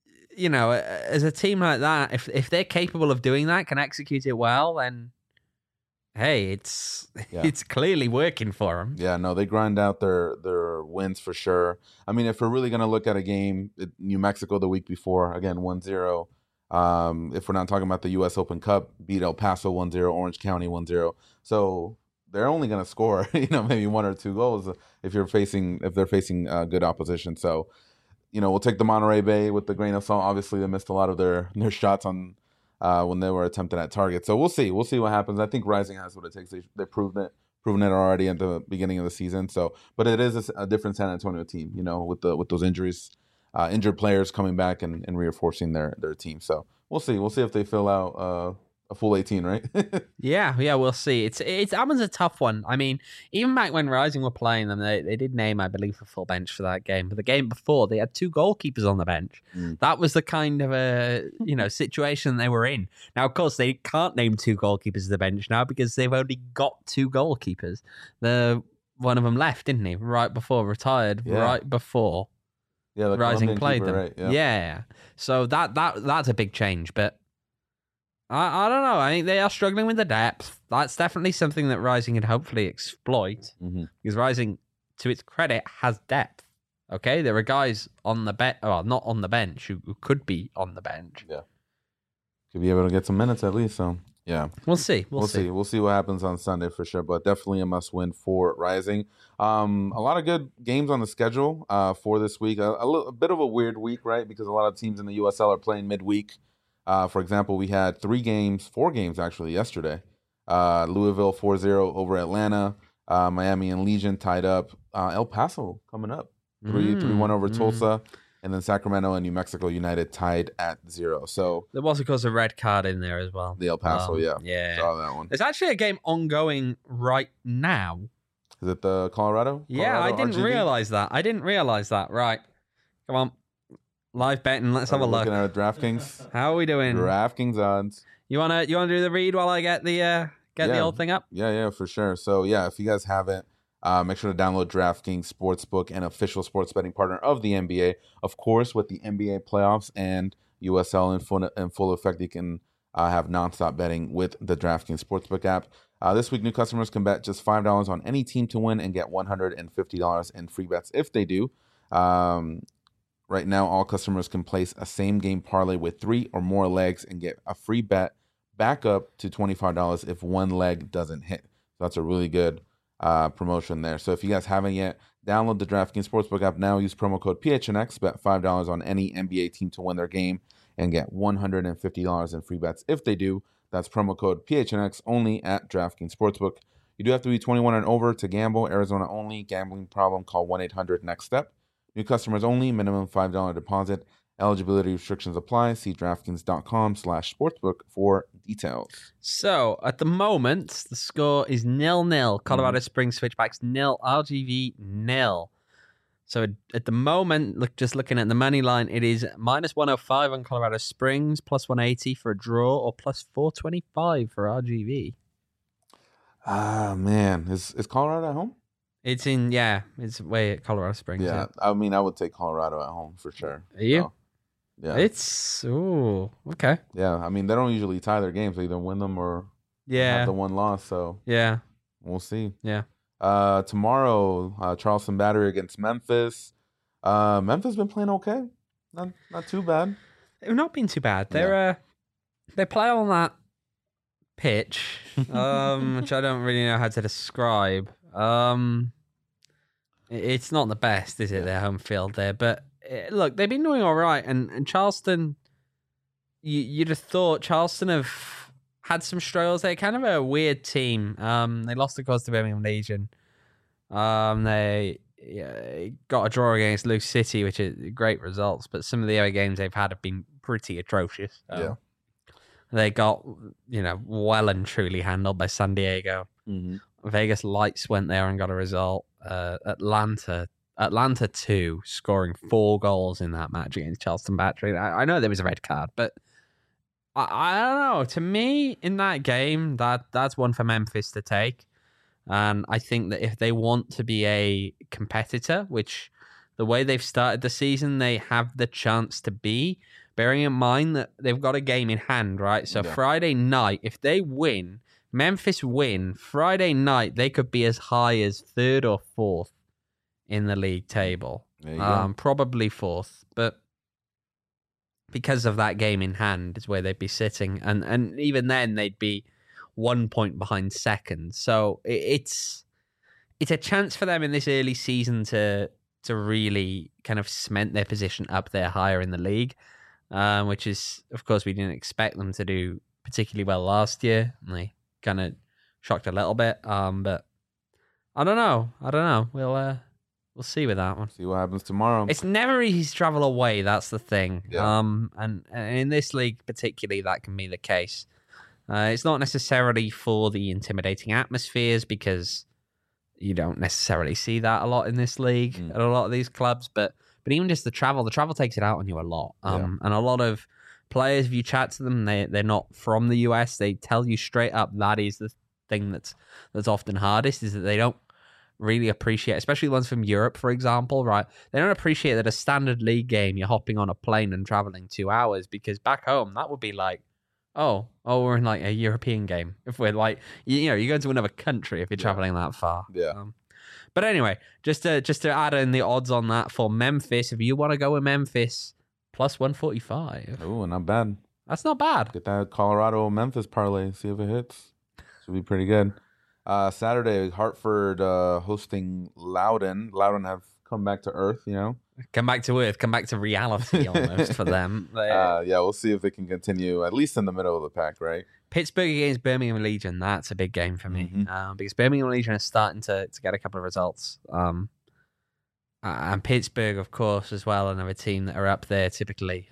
as a team like that, if they're capable of doing that, can execute it well, then hey, it's clearly working for them. Yeah, no, they grind out their wins for sure. I mean, if we're really going to look at a game, New Mexico the week before, again, 1-0. If we're not talking about the U.S. Open Cup, beat El Paso 1-0, Orange County 1-0. So they're only going to score, maybe 1 or 2 goals if they're facing good opposition. So, we'll take the Monterey Bay with the grain of salt. Obviously, they missed a lot of their shots on when they were attempted at target. So we'll see what happens. I think Rising has what it takes. They've proven it already at the beginning of the season. So, but it is a different San Antonio team, with those injuries, injured players coming back and reinforcing their team. So we'll see if they fill out a full 18, right? Yeah, we'll see. That one's a tough one. I mean, even back when Rising were playing them, they did name, I believe, a full bench for that game. But the game before, they had 2 goalkeepers on the bench. That was the kind of a situation they were in. Now, of course, they can't name 2 goalkeepers at the bench now because they've only got 2 goalkeepers. One of them left, didn't he? Right before retired. Yeah. Right before the Rising Colombian played keeper, them. right? Yeah. So that's a big change, but. I don't know. I think they are struggling with the depth. That's definitely something that Rising can hopefully exploit. Because Rising, to its credit, has depth. Okay? There are guys on the bench, well, not on the bench, who could be on the bench. Yeah. Could be able to get some minutes at least. So, yeah. We'll see. We'll see. We'll see what happens on Sunday for sure. But definitely a must-win for Rising. A lot of good games on the schedule for this week. A bit of a weird week, right? Because a lot of teams in the USL are playing midweek. For example, we had 4 games actually yesterday. Louisville 4-0 over Atlanta. Miami and Legion tied up. El Paso coming up. 3-1 over Tulsa. And then Sacramento and New Mexico United tied at 0. So there was, of course, a red card in there as well. The El Paso, yeah. Saw that one. There's actually a game ongoing right now. Is it the Colorado? Yeah, I didn't realize that. Right. Come on. Live betting. Let's have a look. Looking at DraftKings. How are we doing? DraftKings odds. You wanna do the read while I get the the old thing up? Yeah, for sure. So if you guys haven't, make sure to download DraftKings Sportsbook, an official sports betting partner of the NBA. Of course, with the NBA playoffs and USL in full effect, you can have nonstop betting with the DraftKings Sportsbook app. This week, new customers can bet just $5 on any team to win and get $150 in free bets if they do. Right now, all customers can place a same-game parlay with 3 or more legs and get a free bet back up to $25 if one leg doesn't hit. So that's a really good promotion there. So if you guys haven't yet, download the DraftKings Sportsbook app now. Use promo code PHNX. Bet $5 on any NBA team to win their game and get $150 in free bets if they do. That's promo code PHNX only at DraftKings Sportsbook. You do have to be 21 and over to gamble. Arizona only. Gambling problem? Call 1-800-NEXT-STEP. New customers only, minimum $5 deposit. Eligibility restrictions apply. See DraftKings.com/sportsbook for details. So, at the moment, the score is 0-0. Colorado Springs Switchbacks 0, RGV 0. So, at the moment, just looking at the money line, it is -105 on Colorado Springs, +180 for a draw, or +425 for RGV. Man. Is Colorado at home? It's it's way at Colorado Springs. Yeah, I mean, I would take Colorado at home for sure. Are you? So, yeah. Okay. Yeah, I mean, they don't usually tie their games. They either win them or have the one loss. So yeah, we'll see. Yeah. Tomorrow, Charleston Battery against Memphis. Memphis been playing okay. Not too bad. They've not been too bad. They play on that pitch, which I don't really know how to describe. It's not the best, is it? Their home field there, but look, they've been doing all right. And Charleston, you'd have thought Charleston have had some struggles. They're kind of a weird team. They lost, of course, to Birmingham Legion. They got a draw against Luke City, which is great results. But some of the other games they've had have been pretty atrocious. They got well and truly handled by San Diego. Vegas Lights went there and got a result. Atlanta 2, scoring 4 goals in that match against Charleston Battery. I know there was a red card, but I don't know. To me, in that game, that's one for Memphis to take. And I think that if they want to be a competitor, which the way they've started the season, they have the chance to be, bearing in mind that they've got a game in hand, right? So Friday night, if they win, Memphis win, Friday night, they could be as high as 3rd or 4th in the league table. Probably 4th, but because of that game in hand is where they'd be sitting. And even then, they'd be 1 point behind second. So it's a chance for them in this early season to really kind of cement their position up there higher in the league, which is, of course, we didn't expect them to do particularly well last year. And they kind of shocked a little bit. But I don't know. We'll see with that one. See what happens tomorrow. It's never easy to travel away. That's the thing. Yeah. And in this league particularly, that can be the case. It's not necessarily for the intimidating atmospheres, because you don't necessarily see that a lot in this league at a lot of these clubs. But even just the travel takes it out on you a lot. And a lot of players, if you chat to them, they're not from the US. They tell you straight up that is the thing that's often hardest, is that they don't really appreciate, especially ones from Europe, for example, right? They don't appreciate that a standard league game, you're hopping on a plane and traveling 2 hours, because back home, that would be like, oh, we're in like a European game. If we're like, you're going to another country if you're traveling that far. Yeah. But anyway, just to add in the odds on that for Memphis, if you want to go with Memphis, plus 145. Oh, not bad. That's not bad. Get that Colorado-Memphis parlay. See if it hits. Should be pretty good. Saturday, Hartford hosting Loudoun. Loudoun have come back to earth, Come back to earth, come back to reality almost for them. We'll see if they can continue, at least in the middle of the pack, right? Pittsburgh against Birmingham Legion, that's a big game for me. Because Birmingham Legion is starting to get a couple of results. And Pittsburgh, of course, as well, another team that are up there typically.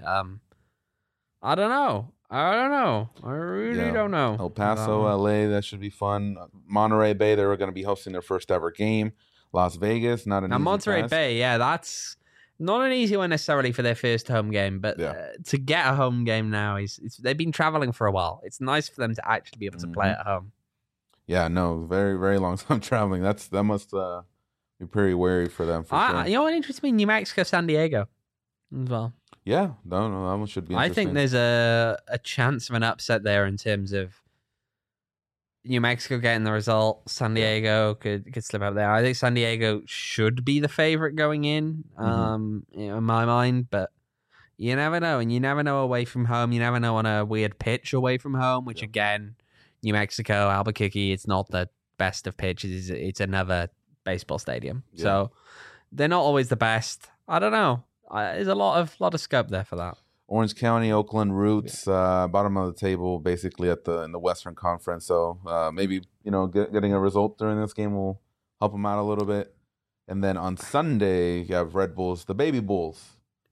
I don't know. I really don't know. El Paso, LA, that should be fun. Monterey Bay, they were going to be hosting their first ever game. Las Vegas, not an easy Monterey task. Bay, that's not an easy one necessarily for their first home game, but to get a home game now, they've been traveling for a while. It's nice for them to actually be able to play at home. Yeah, no, very, very long time traveling. That must be pretty wary for them. Sure. You know what interests me? New Mexico, San Diego as well. Yeah, no, that one should be interesting. I think there's a chance of an upset there in terms of New Mexico getting the result. San Diego could slip up there. I think San Diego should be the favorite going in, in my mind, but you never know. And you never know away from home. You never know on a weird pitch away from home, which again, New Mexico, Albuquerque, it's not the best of pitches. It's another baseball stadium. Yeah. So they're not always the best. I don't know. There's a lot of scope there for that. Orange County, Oakland Roots, bottom of the table, basically in the Western Conference. So maybe getting a result during this game will help them out a little bit. And then on Sunday, you have Red Bulls, the Baby Bulls,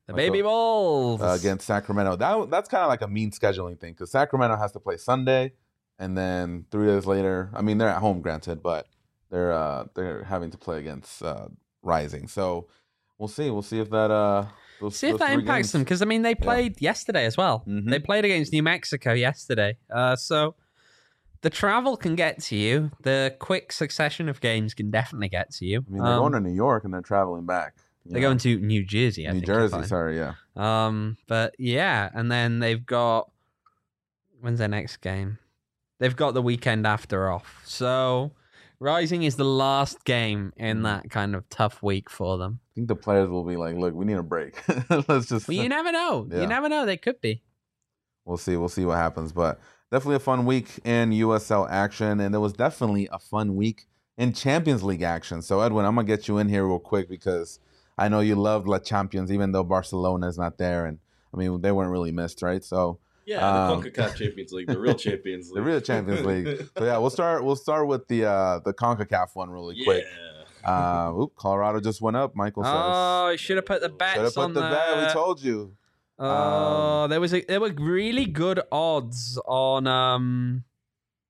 against Sacramento. That's kind of like a mean scheduling thing, because Sacramento has to play Sunday, and then 3 days later, I mean they're at home, granted, but they're having to play against Rising. So. We'll see if that see if that impacts them, because I mean they played yesterday as well. They played against New Mexico yesterday, so the travel can get to you. The quick succession of games can definitely get to you. I mean, they're going to New York and they're traveling back. They're going to New Jersey. New Jersey, sorry, yeah. But yeah, and then they've got, when's their next game? They've got the weekend after off. So Rising is the last game in that kind of tough week for them. I think the players will be like, look, we need a break. Let's just... Well, you never know. Yeah. You never know. They could be. We'll see what happens. But definitely a fun week in USL action. And there was definitely a fun week in Champions League action. So, Edwin, I'm going to get you in here real quick, because I know you love La Champions, even though Barcelona is not there. And, I mean, they weren't really missed, right? So... Yeah, the CONCACAF Champions League, the real Champions League. The real Champions League. So yeah, we'll start with the CONCACAF one really quick. Colorado just went up, Michael says. Oh, you should have put the bets on there. Bet. We told you. There were really good odds on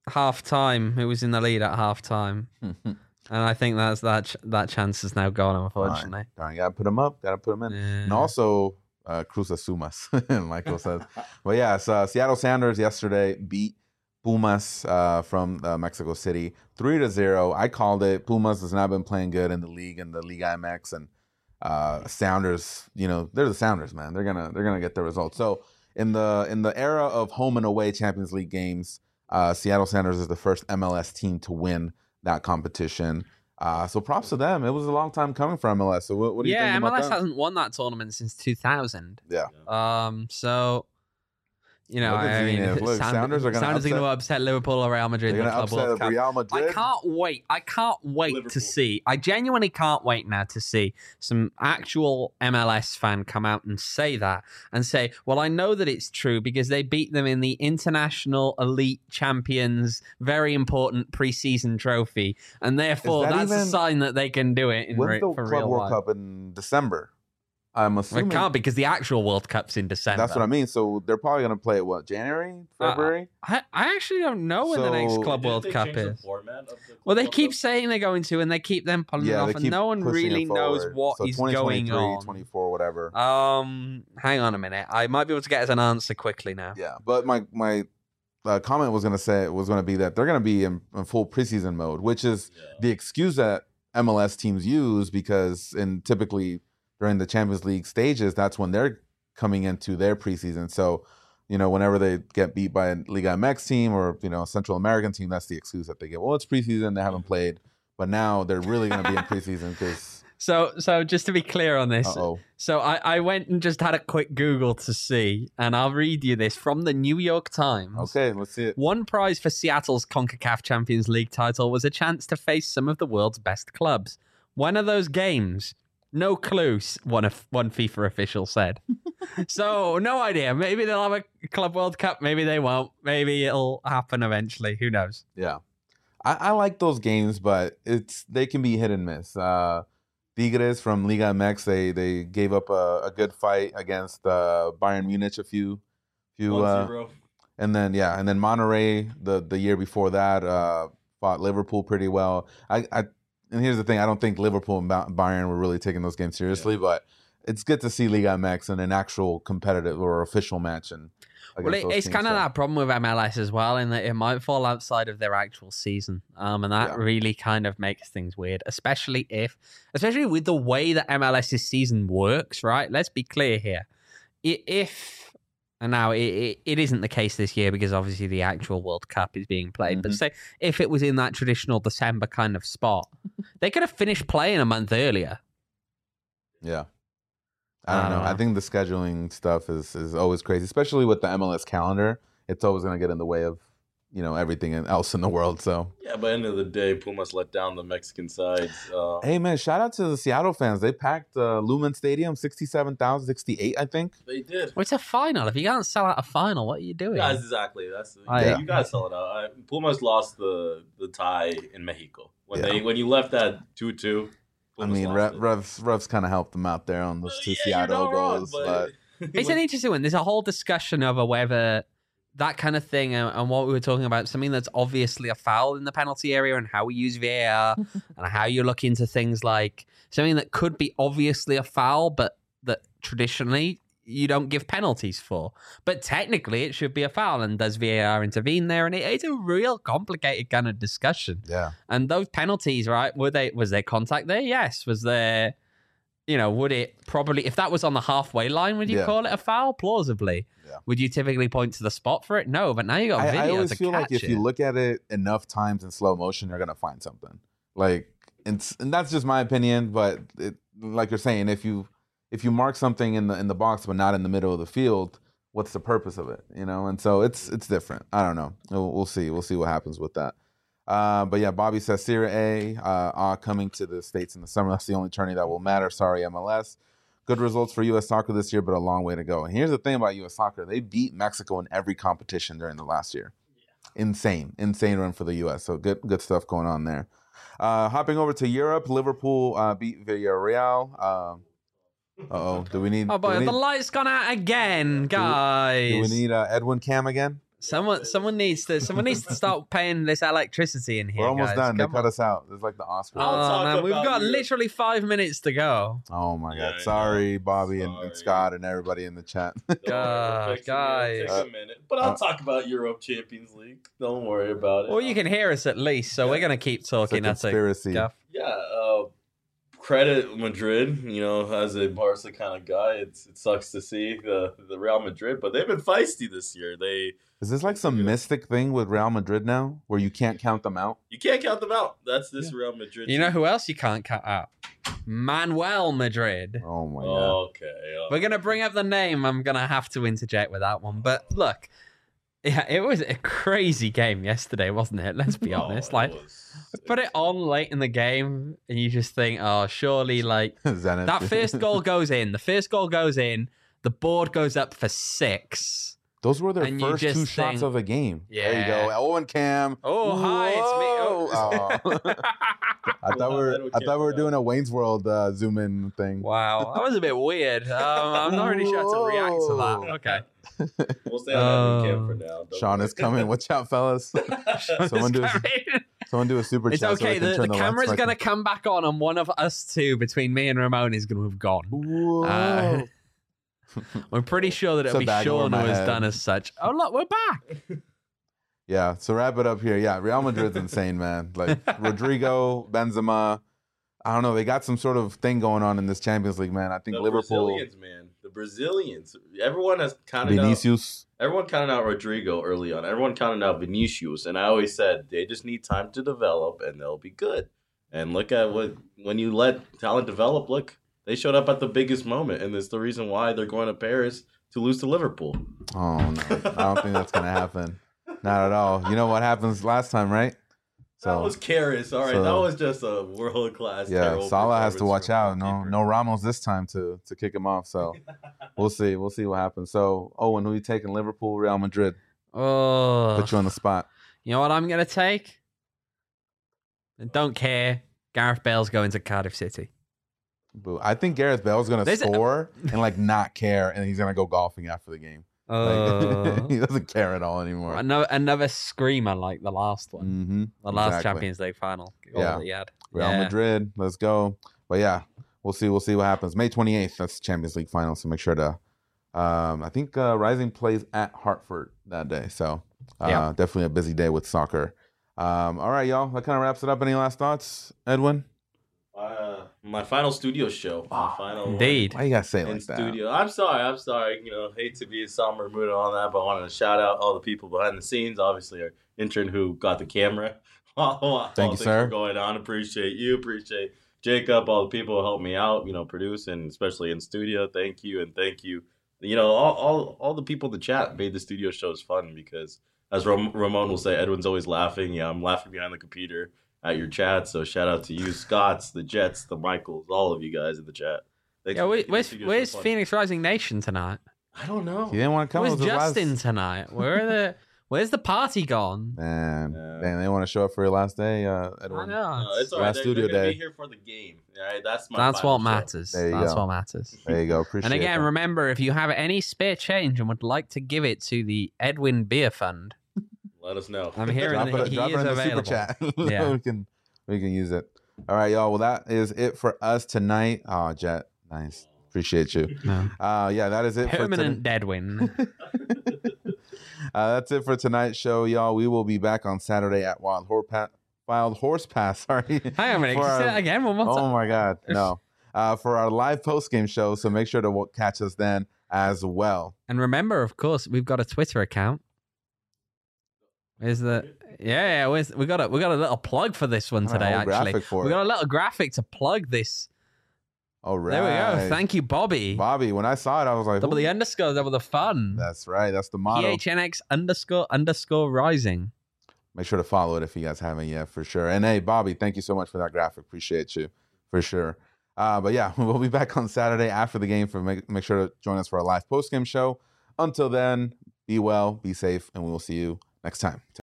half time. Who was in the lead at half time? And I think that chance is now gone, unfortunately. Darn, gotta put him up. Gotta put him in. Yeah. And also, Cruz Asumas, Michael says. But yeah, so Seattle Sounders yesterday beat Pumas from Mexico City 3-0. I called it. Pumas has not been playing good in the league and the Liga MX, and Sounders, they're the Sounders, man. They're gonna get the results. So in the era of home and away Champions League games, Seattle Sounders is the first MLS team to win that competition. So props to them. It was a long time coming for MLS. So what do you think about that? MLS hasn't won that tournament since 2000. Yeah. So, Sounders are going to upset Liverpool or Real Madrid. They're going to upset Real Madrid. I can't wait Liverpool. to see. I genuinely can't wait now to see some actual MLS fan come out and say that and say, well, I know that it's true because they beat them in the International Elite Champions, very important preseason trophy, and therefore that's a sign that they can do it for real Club life. World Cup in December. I'm assuming it can't because the actual World Cup's in December. That's what I mean. So they're probably going to play it, January, February? I actually don't know when the next Club World Cup is. Well, they keep saying they're going to, and they keep them pulling it off, and no one really knows what is going on. 24, whatever. Hang on a minute. I might be able to get us an answer quickly now. Yeah, but my comment was going to be that they're going to be in full preseason mode, which is the excuse that MLS teams use because typically during the Champions League stages, that's when they're coming into their preseason. So, whenever they get beat by a Liga MX team or, a Central American team, that's the excuse that they get. Well, it's preseason, they haven't played, but now they're really going to be in preseason because... So just to be clear on this, Uh-oh. So I went and just had a quick Google to see, and I'll read you this from the New York Times. Okay, let's see it. One prize for Seattle's CONCACAF Champions League title was a chance to face some of the world's best clubs. When are those games? No clue, one FIFA official said. So, no idea. Maybe they'll have a Club World Cup. Maybe they won't. Maybe it'll happen eventually. Who knows? Yeah. I like those games, but they can be hit and miss. Tigres from Liga MX, they gave up a good fight against Bayern Munich a few 1-0. and then Monterrey the year before that fought Liverpool pretty well. And here's the thing, I don't think Liverpool and Bayern were really taking those games seriously, but it's good to see Liga MX in an actual competitive or official match. It's kind of that problem with MLS as well, in that it might fall outside of their actual season. And that really kind of makes things weird, especially with the way that MLS's season works, right? Let's be clear here. And now it isn't the case this year because obviously the actual World Cup is being played. But say if it was in that traditional December kind of spot, they could have finished playing a month earlier. Yeah. I don't know. I think the scheduling stuff is always crazy, especially with the MLS calendar. It's always going to get in the way of everything else in the world. So yeah, but end of the day, Pumas let down the Mexican side. Hey man, shout out to the Seattle fans. They packed Lumen Stadium, 67,000, 68, I think. They did. Well, it's a final. If you can't sell out a final, what are you doing? Yeah, exactly. You gotta sell it out. Pumas lost the tie in Mexico when you left that 2-2. I mean, Revs kind of helped them out there on those two Seattle goals, but it's an interesting one. There's a whole discussion over whether that kind of thing and what we were talking about, something that's obviously a foul in the penalty area and how we use VAR and how you look into things like something that could be obviously a foul, but that traditionally you don't give penalties for. But technically it should be a foul, and does VAR intervene there? And it's a real complicated kind of discussion. Yeah. And those penalties, right? Was there contact there? Yes. Was there... would it probably, if that was on the halfway line, would you call it a foul? Plausibly. Yeah. Would you typically point to the spot for it? No, but now you got video to catch it. I always feel like if you look at it enough times in slow motion, you're going to find something. And that's just my opinion, but like you're saying, if you mark something in the box but not in the middle of the field, what's the purpose of it? And so it's different. I don't know. We'll see. We'll see what happens with that. But yeah, Bobby says Serie A are coming to the States in the summer. That's the only tourney that will matter. Sorry, MLS. Good results for U.S. soccer this year, but a long way to go. And here's the thing about U.S. soccer. They beat Mexico in every competition during the last year. Yeah. Insane run for the U.S. So good stuff going on there. Hopping over to Europe, Liverpool beat Villarreal. Do we need... Oh, boy, the light's gone out again, guys. Do we need Edwin Cam again? Someone needs to start paying this electricity in here. We're almost guys. done. They Come cut on. us out. It's like the Oscars. Oh man, we've got Europe. literally 5 minutes to go. Oh my Yeah, God! I Sorry, know. Bobby Sorry. and Scott and everybody in the chat. God, guys. Take a minute, but I'll talk about Europe Champions League. Don't worry about it. Well, you can hear us at least, so we're gonna keep It's a talking. That's a conspiracy. Gaff. Yeah, credit Madrid. You know, as a Barca kind of guy, it sucks to see the Real Madrid, but they've been feisty this year. Is this like some mystic thing with Real Madrid now, where you can't count them out? You can't count them out. That's this Real Madrid. You know team. who else you can't cut out? Manuel Madrid. Oh my God! Okay. We're gonna bring up the name. I'm gonna have to interject with that one. But look, yeah, it was a crazy game yesterday, wasn't it? Let's be honest. Like, put it on late in the game, and you just think, oh, surely, like Zenit. that first goal goes in. The first goal goes in. The board goes up for 6. Those were their and you first just 2 shots think- of the game. There you Yeah. go. Owen Cam. Oh, hi, it's me. Whoa. Oh. I thought we were doing a Wayne's World zoom in thing. Wow, that was a bit weird. I'm not really sure how to react to that. Whoa. Okay. We'll stay on that cam for now. Don't Sean worry. is coming. Watch out, fellas. Someone do a super It's chat. okay. So The camera's going to come back on, and one of us two, between me and Ramon, is going to have gone. Whoa. I'm pretty sure that It's it'll a be bag over Sean who my has head. done as such. Oh, look, we're back. Yeah, so wrap it up here. Yeah, Real Madrid's insane, man. Like Rodrigo, Benzema. I don't know. They got some sort of thing going on in this Champions League, man. I think The Liverpool, Brazilians, man. The Brazilians. Everyone has counted out. Vinicius. Everyone counted out Rodrigo early on. Everyone counted out Vinicius, and I always said they just need time to develop, and they'll be good. And look at when you let talent develop. Look, they showed up at the biggest moment, and it's the reason why they're going to Paris to lose to Liverpool. Oh no, I don't think that's gonna happen. Not at all. You know what happens last time, right? That was Karras. All right, so- that was just a world class. Yeah, Salah has to watch out. No, no. no Ramos this time to kick him off. So we'll see. We'll see what happens. So Owen, who you taking? Liverpool, Real Madrid? Oh, Put you on the spot. you know what I'm going to take? Don't care. Gareth Bale's going to Cardiff City. Boo. I think Gareth Bale's gonna There's a- score and like not care, and he's gonna go golfing after the game. Like, he doesn't care at all anymore. Another screamer like the last one. Mm-hmm. The last Exactly. Champions League final goal Yeah. that he had. Real Yeah. Madrid, let's go. But yeah, we'll see. We'll see what happens. May 28th, that's Champions League final. So make sure to. I think Rising plays at Hartford that day. So Yeah. definitely a busy day with soccer. All right, y'all. That kind of wraps it up. Any last thoughts, Edwin? My final studio show. My final Indeed. Why you gotta say it in like that? studio. I'm sorry. You know, hate to be a somber mood and all that, but I wanted to shout out all the people behind the scenes. Obviously, our intern who got the camera. Thank you, sir. For going on. Appreciate you. Appreciate Jacob. All the people who helped me out. You know, produce and especially in studio. Thank you and thank you. You know, all the people in the chat made the studio shows fun because, as Ramon will say, Edwin's always laughing. Yeah, I'm laughing behind the computer at your chat. So shout out to you, Scotts, the Jets, the Michaels, all of you guys in the chat. Thanks Yeah, for making the studio where's so fun. Phoenix Rising Nation tonight? I don't know. He didn't want to come. Where's It was his Justin last- tonight? Where's the party gone? Man, Yeah. man, they want to show up for your last day, I Edwin. know. It's all right. Last They're studio gonna day. be here for the game. All right, that's my. That's final what show. matters. There you That's go. what matters. There you go. Appreciate And again, that. remember, if you have any spare change and would like to give it to the Edwin Beer Fund, Let us know. I'm hearing drop that it, he drop is it in the available. super chat. Yeah. we can use it. All right, y'all. Well, that is it for us tonight. Oh, Jet, nice. Appreciate you. No. Yeah, that is it Permanent Deadwin. for tonight. That's it for tonight's show, y'all. We will be back on Saturday at Wild Horse Pass. Sorry. Hang on a minute. For Can you say our- that again? One more Oh time. my God, no. For our live post game show, so make sure to catch us then as well. And remember, of course, we've got a Twitter account. Where's the? Yeah, we got a little plug for this one Got a today. whole Actually, graphic for we it. got a little graphic to plug this. All right. There we go. Thank you, Bobby. Bobby. When I saw it, I was like, Double the "Ooh." underscore, double the fun. That's right. That's the motto. PHNX __ rising. Make sure to follow it if you guys haven't yet, for sure. And hey, Bobby, thank you so much for that graphic. Appreciate you, for sure. But yeah, we'll be back on Saturday after the game. Make sure to join us for our live post game show. Until then, be well, be safe, and we will see you next time.